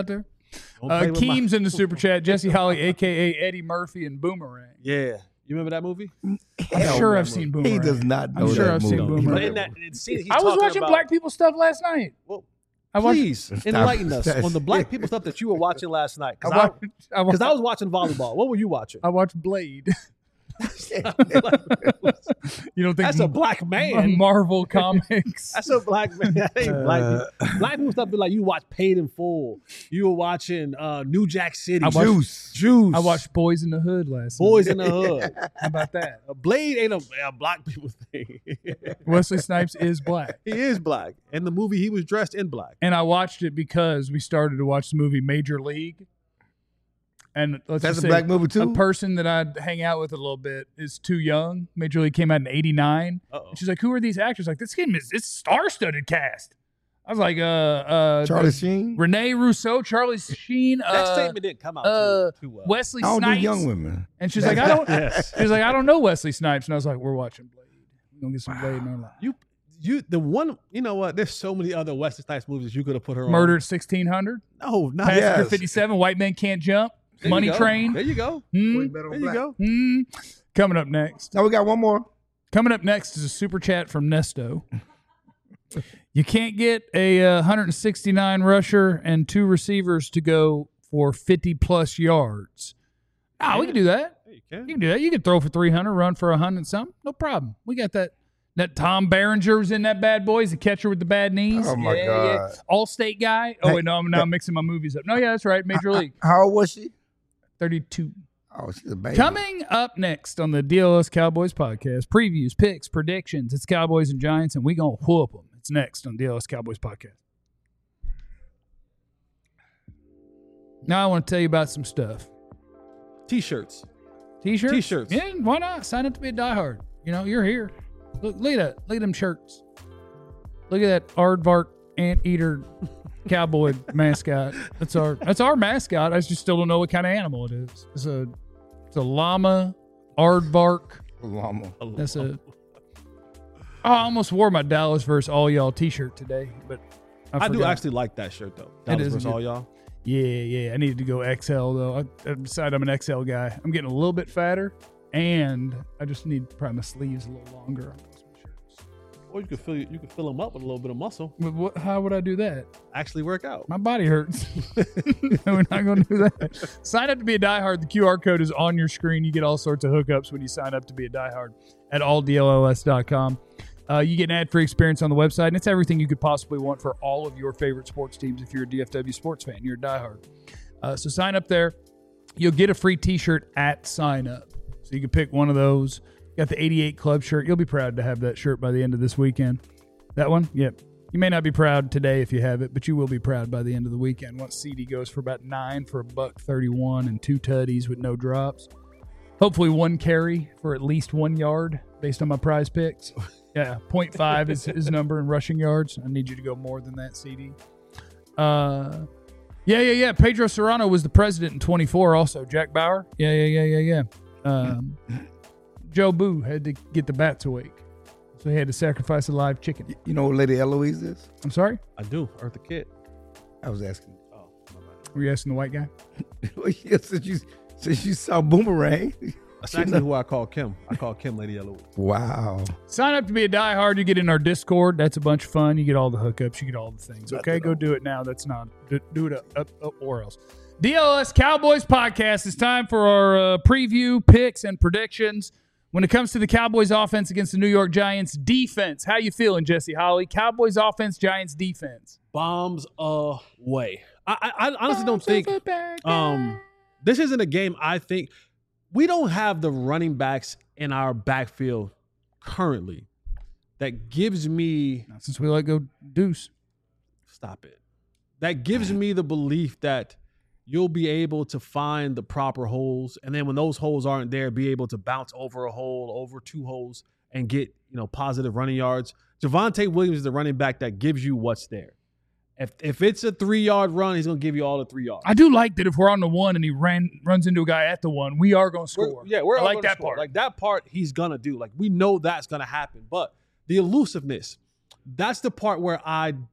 Don't play with my- Keem's in the super chat. Jesse Holly, a.k.a. Eddie Murphy and Boomerang. Yeah. You remember that movie? I'm sure I've seen Boomerang. He does not know I'm sure that I've seen movie. Boomerang. But in that scene, he's I was talking watching about, black people stuff last night. Well, I watched, please enlighten us on the black people stuff that you were watching last night. Because I was watching volleyball. What were you watching? I watched Blade. You don't think That's a black man. Marvel Comics? That's a black man. That ain't black people. Black people stuff be like you watch Paid in Full. You were watching New Jack City. Juice. I watched Boys in the Hood last Boys night. in the Hood. How about that? A Blade ain't a black people thing. Wesley Snipes is black. He is black. In the movie, he was dressed in black. And I watched it because we started to watch the movie Major League. And let's That's just a say black movie too. a person that I'd hang out with a little bit is too young. Major League came out in '89. Uh-oh. And she's like, "Who are these actors?" Like, this game it's star-studded cast. I was like, Charlie Sheen. Renee Russo, Charlie Sheen, That statement didn't come out too well. Wesley I don't Snipes. do young women. And she's like, I don't. Yes. She's like, I don't know Wesley Snipes. And I was like, we're watching Blade. We're gonna get some Blade in our life. The one, you know what? There's so many other Wesley Snipes movies you could have put her Murder on. at 1600. No, not Passenger Yes. 57. White Men Can't Jump. There you Money go. Train. There you go. Hmm? There you go. Hmm. Coming up next. Now we got one more. Coming up next is a super chat from Nesto. You can't get a 169 rusher and 2 receivers to go for 50-plus yards. We can do that. Yeah, you You can. can do that. You can throw for 300, run for 100 and something. No problem. We got that. That Tom Berenger was in that bad boy. He's the catcher with the bad knees. Oh, my God. All-state guy. Oh, wait, no, I'm now mixing my movies up. No, yeah, that's right. Major League. How old was she? 32. Oh, she's a baby. Coming up next on the DLS Cowboys podcast, previews, picks, predictions. It's Cowboys and Giants, and we going to whoop them. It's next on DLS Cowboys podcast. Now I want to tell you about some stuff. T-shirts. T-shirts? T-shirts. Yeah, why not? Sign up to be a diehard. You know, you're here. Look at that. Look at them shirts. Look at that aardvark anteater cowboy mascot. That's our mascot. I just still don't know what kind of animal it is. It's a llama, aardvark. Llama. That's a. I almost wore my Dallas versus all y'all T-shirt today, but I do forgot. actually like that shirt though. It Dallas is versus good. all y'all. Yeah. I needed to go XL though. I decided I'm an XL guy. I'm getting a little bit fatter, and I just need probably my sleeves a little longer on those shirts. Or you could fill them up with a little bit of muscle. But how would I do that? Actually work out. My body hurts. We're not going to do that. Sign up to be a diehard. The QR code is on your screen. You get all sorts of hookups when you sign up to be a diehard at alldls.com. You get an ad-free experience on the website, and it's everything you could possibly want for all of your favorite sports teams. If you're a DFW sports fan, you're a diehard. So sign up there. You'll get a free T-shirt at sign up. So you can pick one of those. Got the 88 Club shirt. You'll be proud to have that shirt by the end of this weekend. That one? Yep. You may not be proud today if you have it, but you will be proud by the end of the weekend. Once CD goes for about $9 for $1.31 and 2 tutties with no drops. Hopefully 1 carry for at least 1 yard based on my prize picks. Yeah, 0.5 is his number in rushing yards. I need you to go more than that, CD. Yeah. Pedro Serrano was the president in 24 also. Jack Bauer. Yeah. Joe Boo had to get the bats awake. So he had to sacrifice a live chicken. You know what Lady Eloise is? I'm sorry? I do. Eartha Kitt. I was asking. Oh, my bad. Were you asking the white guy? Yeah, since you saw Boomerang. That's actually who I call Kim. I call Kim Lady Eloise. Wow. Sign up to be a diehard. You get in our Discord. That's a bunch of fun. You get all the hookups. You get all the things. Okay, go do it now. That's not do it up or else. DLS Cowboys podcast. It's time for our preview, picks, and predictions. When it comes to the Cowboys offense against the New York Giants defense, how you feeling, Jesse Holly? Cowboys offense, Giants defense. Bombs away. I honestly don't think this isn't a game. I think we don't have the running backs in our backfield currently that gives me Not since we let go Deuce. stop it. That gives me the belief that you'll be able to find the proper holes, and then when those holes aren't there, be able to bounce over a hole, over 2 holes, and get positive running yards. Javonte Williams is the running back that gives you what's there. If it's a 3-yard run, he's going to give you all the 3 yards. I do like that if we're on the 1 and he runs into a guy at the 1, we are going to score. We're I all like gonna that score. part. Like that part, he's going to do. Like we know that's going to happen. But the elusiveness, that's the part where I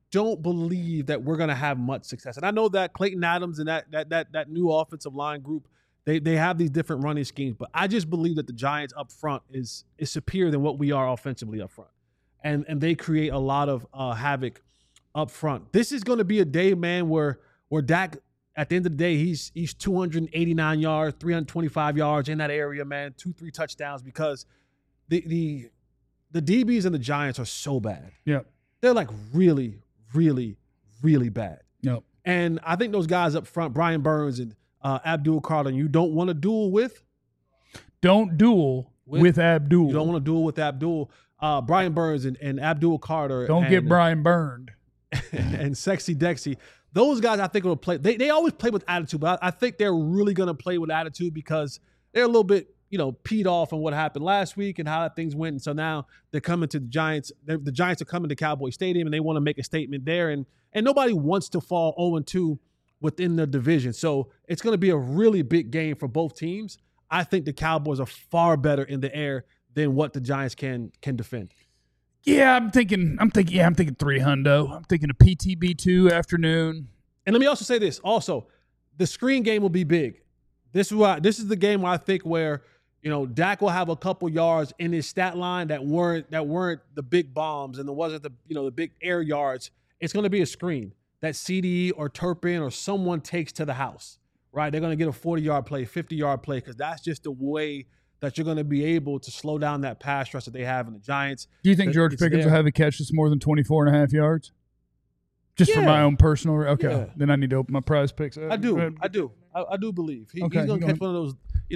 don't believe that we're going to have much success. And I know that Clayton Adams and that new offensive line group, they have these different running schemes, but I just believe that the Giants up front is superior than what we are offensively up front. And they create a lot of havoc up front. This is going to be a day, man, where Dak, at the end of the day, he's 289 yards, 325 yards in that area, man, 2-3 touchdowns, because the DBs and the Giants are so bad. Yeah. They're like really, really, really bad. Yep. And I think those guys up front, Brian Burns and Abdul Carter, you don't want to duel with. Don't duel with Abdul. You don't want to duel with Abdul. Brian Burns and Abdul Carter. Don't get Brian burned. And Sexy Dexy. Those guys, I think, will play. They always play with attitude, but I think they're really going to play with attitude because they're a little bit, peed off on what happened last week and how things went. And so now they're coming to the Giants. The Giants are coming to Cowboy Stadium, and they want to make a statement there. And nobody wants to fall 0-2 within the division. So it's going to be a really big game for both teams. I think the Cowboys are far better in the air than what the Giants can defend. Yeah, I'm thinking 300. I'm thinking a PTB2 afternoon. And let me also say this. Also, the screen game will be big. This is the game where I think where, Dak will have a couple yards in his stat line that weren't the big bombs and there wasn't the big air yards. It's going to be a screen that CD or Turpin or someone takes to the house, right? They're going to get a 40-yard play, 50-yard play, because that's just the way that you're going to be able to slow down that pass rush that they have in the Giants. Do you think George Pickens will have a catch that's more than 24.5 yards? Just for my own personal – okay. Yeah. Then I need to open my prize picks. I do believe. He's going to catch one of those,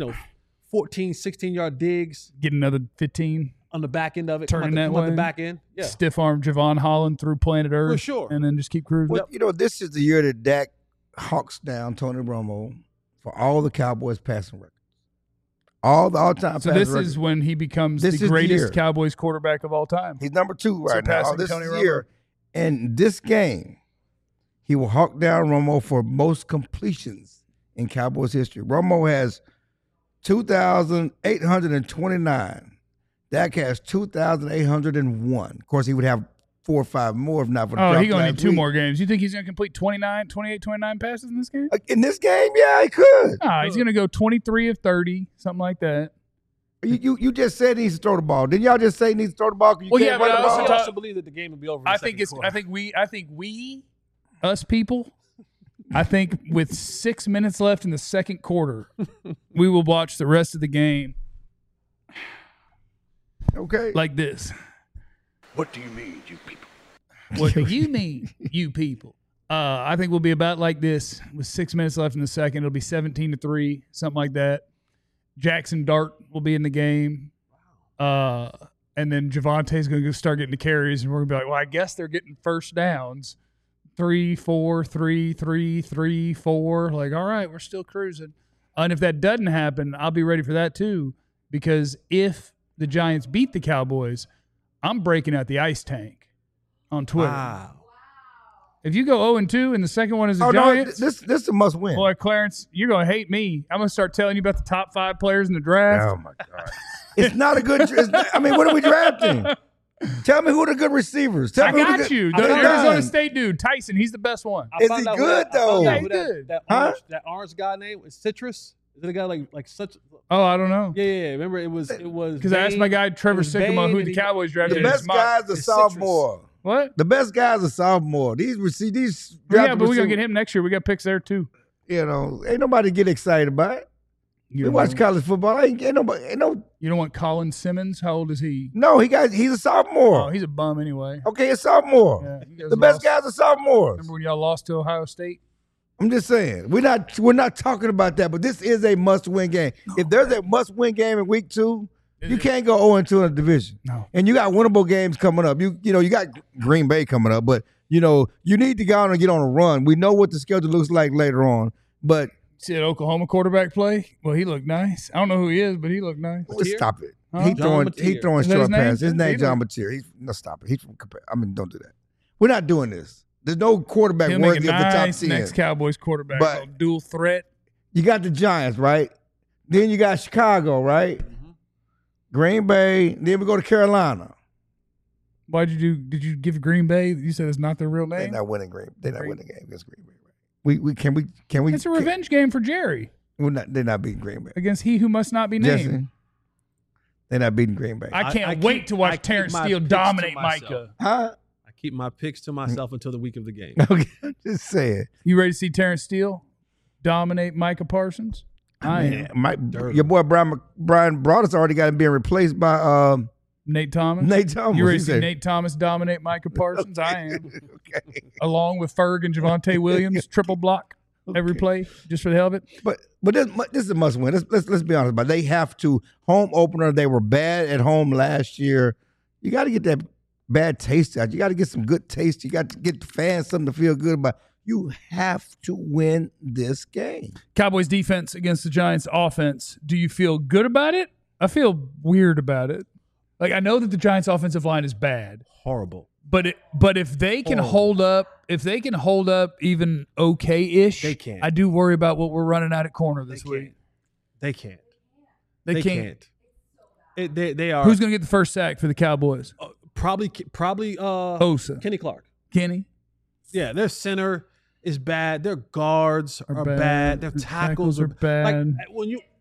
14, 16-yard digs. Get another 15. On the back end of it. Turning that way. The back end. Yeah. Stiff arm Javon Holland through planet Earth. For sure. And then just keep cruising. Well, this is the year that Dak hawks down Tony Romo for all the Cowboys passing records. All the all-time passing records. So this is when he becomes the greatest Cowboys quarterback of all time. He's number 2 right now. This Tony year. And this game, he will hawk down Romo for most completions in Cowboys history. Romo has 2,829. Dak has 2,801. Of course, he would have 4 or 5 more if not for the draft. He's going to need 2 more games. You think he's going to complete 28, 29 passes in this game? In this game, yeah, he could. He's going to go 23 of 30, something like that. You just said he needs to throw the ball. Didn't y'all just say he needs to throw the ball? But I also believe that the game will be over. I think we, us people, I think with 6 minutes left in the second quarter, we will watch the rest of the game. Okay. Like this. What do you mean, you people? What do you mean, you people? I think we'll be about like this with 6 minutes left in the second. It'll be 17-3, something like that. Jackson Dart will be in the game. And then Javonte's going to start getting the carries, and we're going to be like, well, I guess they're getting first downs. 3, 4, 3, 3, 3, 4. Like, all right, we're still cruising. And if that doesn't happen, I'll be ready for that too. Because if the Giants beat the Cowboys, I'm breaking out the ice tank on Twitter. Wow. If you go 0-2 and the second one is the Giants. No, this is a must win. Boy, Clarence, you're going to hate me. I'm going to start telling you about the top 5 players in the draft. Oh, my God. It's not a good what are we drafting? Tell me who are the good receivers. I got you. The Arizona State dude, Tyson, he's the best one. Is he good, though? Yeah, he's good. That orange guy name was Citrus? Is it a guy like such? Oh, I don't know. Yeah. Remember, it was because I asked my guy Trevor Sycamore who the Cowboys drafted. The best guy's a sophomore. What? The best guy's a sophomore. These yeah, but we're gonna get him next year. We got picks there too. Ain't nobody get excited about it. We watch college football. Ain't nobody. You don't want Colin Simmons? How old is he? No, he's a sophomore. Oh, he's a bum anyway. Okay, a sophomore. Yeah, the best guys are sophomores. Remember when y'all lost to Ohio State? I'm just saying we're not talking about that, but this is a must-win game. If there's a must-win game in week 2, you can't go 0-2 in a division. No. And you got winnable games coming up. You got Green Bay coming up, but you need to go out and get on a run. We know what the schedule looks like later on, but see that Oklahoma quarterback play? Well, he looked nice. I don't know who he is, but he looked nice. Stop it. Huh? He throwing short passes. His name John Mateer. Stop it. He's from don't do that. We're not doing this. There's no quarterback worthy of the top 10. Next Cowboys quarterback, but dual threat. You got the Giants, right? Then you got Chicago, right? Mm-hmm. Green Bay. Then we go to Carolina. Why'd you do? Did you give Green Bay? You said it's not their real They're name. not winning They're not winning the game against Green Bay. Right? Can we? It's a revenge game for Jerry They're not beating Green Bay. against he who must not be named. Jesse, they're not beating Green Bay. I can't I wait keep- to I watch keep Terrence my Steele picks to dominate myself. Micah. Huh? I keep my picks to myself until the week of the game. Okay, I'm just saying. You ready to see Terrence Steele dominate Micah Parsons? I am. Your boy Brian Broaddus already got him being replaced by Nate Thomas. Nate Thomas. You ready He to see said- Nate Thomas dominate Micah Parsons? I am. Okay. Along with Ferg and Javonte Williams, triple block every play just for the hell of it. But this is a must win. Let's be honest about it. They have to. Home opener, they were bad at home last year. You got to get that bad taste out. You got to get some good taste. You got to get the fans something to feel good about. You have to win this game. Cowboys defense against the Giants offense. Do you feel good about it? I feel weird about it. Like, I know that the Giants offensive line is bad, Horrible. but if they can hold up even okay-ish, They can't. I do worry about what we're running out at corner this week. They can't. They can't. They are Who's going to get the first sack for the Cowboys? probably Osa. Kenny Clark. Kenny? Yeah, their center is bad. Their guards are bad. bad. Their The tackles are are bad. Like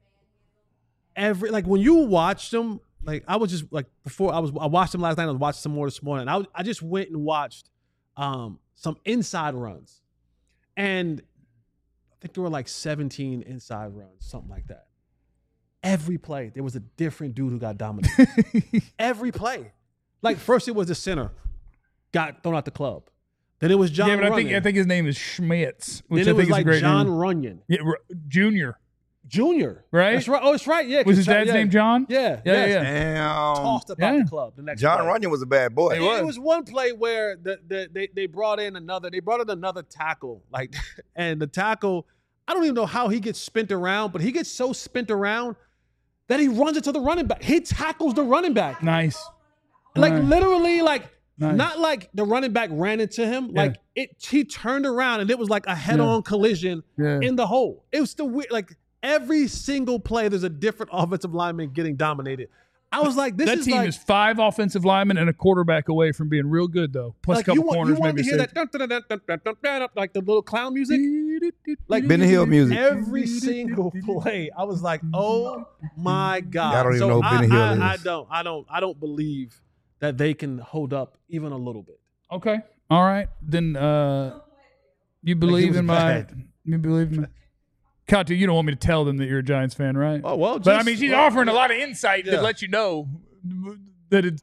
when you watch them, like I was just like before I watched them last night. I was watching some more this morning. I just went and watched some inside runs, and I think there were like 17 inside runs, something like that. Every play there was a different dude who got dominated. Every play, like first it was the center got thrown out the club. Then it was John. Yeah, but Runyon. I think his name is Schmitz, which Then I it think was is like a great John name. Runyon Yeah, Junior. Jr. Right? That's right. Oh, it's right. Yeah. Was his 'cause dad's yeah. name John? Yeah. Yeah, yes. yeah. Damn. Tossed about Yeah. the club. The next John play. Runyon was a bad boy. It was one play where they brought in another tackle, like, and the tackle, I don't even know how he gets spent around, but he gets so spent around that he runs into the running back. He tackles the running back, Nice. like Nice. literally, like Nice. not like the running back ran into him, like he turned around and it was like a head-on collision Yeah. in the hole. It was the weird, like every single play, there's a different offensive lineman getting dominated. I was like, this That is team like, is 5 offensive linemen and a quarterback away from being real good, though. Plus like a couple you corners, wanted maybe to hear safety. that like the little clown music. Like Benny Hill music. Every single play, I was like, "Oh my god!" I don't even know who Benny Hill is. I don't believe that they can hold up even a little bit. Okay. All right. Then you believe was in my bad. you believe in Katu, you don't want me to tell them that you're a Giants fan, right? Oh well, but I mean, she's offering a lot of insight Yeah. to let you know that it's.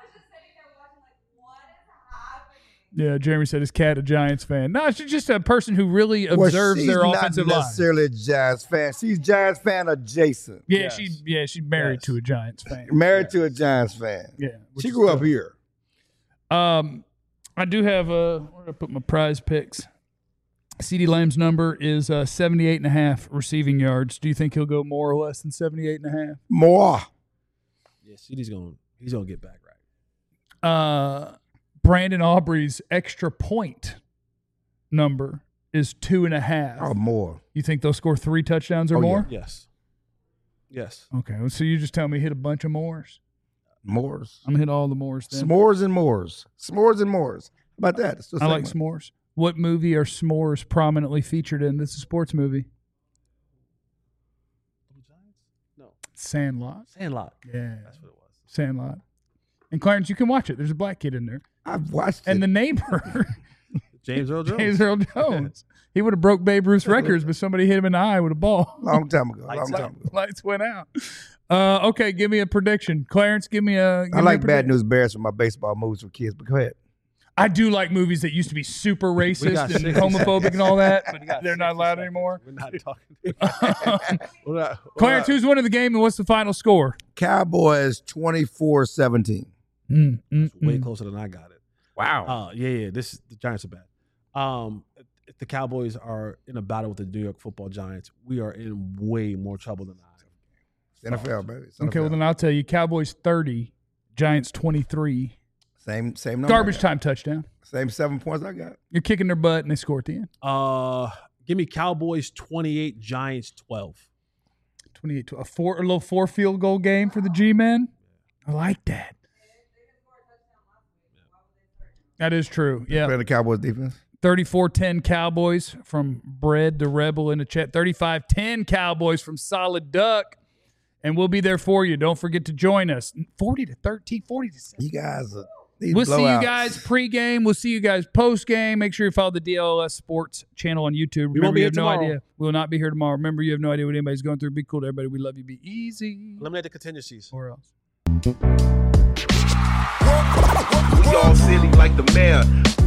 Yeah, Jeremy said his cat a Giants fan. No, she's just a person who really observes she's their not offensive line. necessarily a Giants fan. She's Giants fan adjacent. Yeah, Yes. she's married Yes. to a Giants fan. Married to a Giants fan. Yeah, which She is grew up tough. here. I do have where did I put my prize picks? CeeDee Lamb's number is 78.5 receiving yards. Do you think he'll go more or less than 78.5? More. Yeah, he's gonna get back right. Brandon Aubrey's extra point number is 2.5. Oh, more. You think they'll score 3 touchdowns or Oh, yeah. more? Yes. Okay, well, so you just tell me hit a bunch of mores. Moors. I'm gonna hit all the mores then. S'mores and Moors. S'mores and Moors. How about that? It's the I like segment. s'mores. What movie are s'mores prominently featured in? This is a sports movie. No. Sandlot. Sandlot. Yeah, That's what it was. Sandlot. And Clarence, you can watch it. There's a black kid in there. I've watched And it. the neighbor, James Earl Jones. James Earl Jones. He would have broke Babe Ruth's records, but somebody hit him in the eye with a ball. Long time ago. Lights Long out. time ago. Lights went out. Okay, give me a prediction. Clarence, give me a. I like Bad News Bears for my baseball movies for kids, but go ahead. I do like movies that used to be super We racist got and 60 homophobic and all that, We but got they're not 60 allowed seconds. anymore. We're not talking. Clarence, who's winning the game and what's the final score? Cowboys 24-17. Way closer than I got it. Wow. Yeah. The Giants are bad. If the Cowboys are in a battle with the New York Football Giants, we are in way more trouble than I. NFL, baby. It's Okay, well NFL. then I'll tell you, Cowboys 30, Giants 23. Same number. Garbage I got. time touchdown. Same 7 points I got. You're kicking their butt and they score at the end. Give me Cowboys 28, Giants 12. 28 a little 4 field goal game for the G-men. I like that. That is true. Yeah. Playing the Cowboys defense. 34-10 Cowboys from Bread the Rebel in the chat. 35-10 Cowboys from Solid Duck. And we'll be there for you. Don't forget to join us. 40-13, 40-7. You guys are We'll see you guys pregame. We'll see you guys postgame. Make sure you follow the DLS Sports channel on YouTube. We won't be here no tomorrow. idea. We will not be here tomorrow. Remember, you have no idea what anybody's going through. Be cool to everybody. We love you. Be easy. Eliminate the contingencies. Or else. We all silly like the mayor.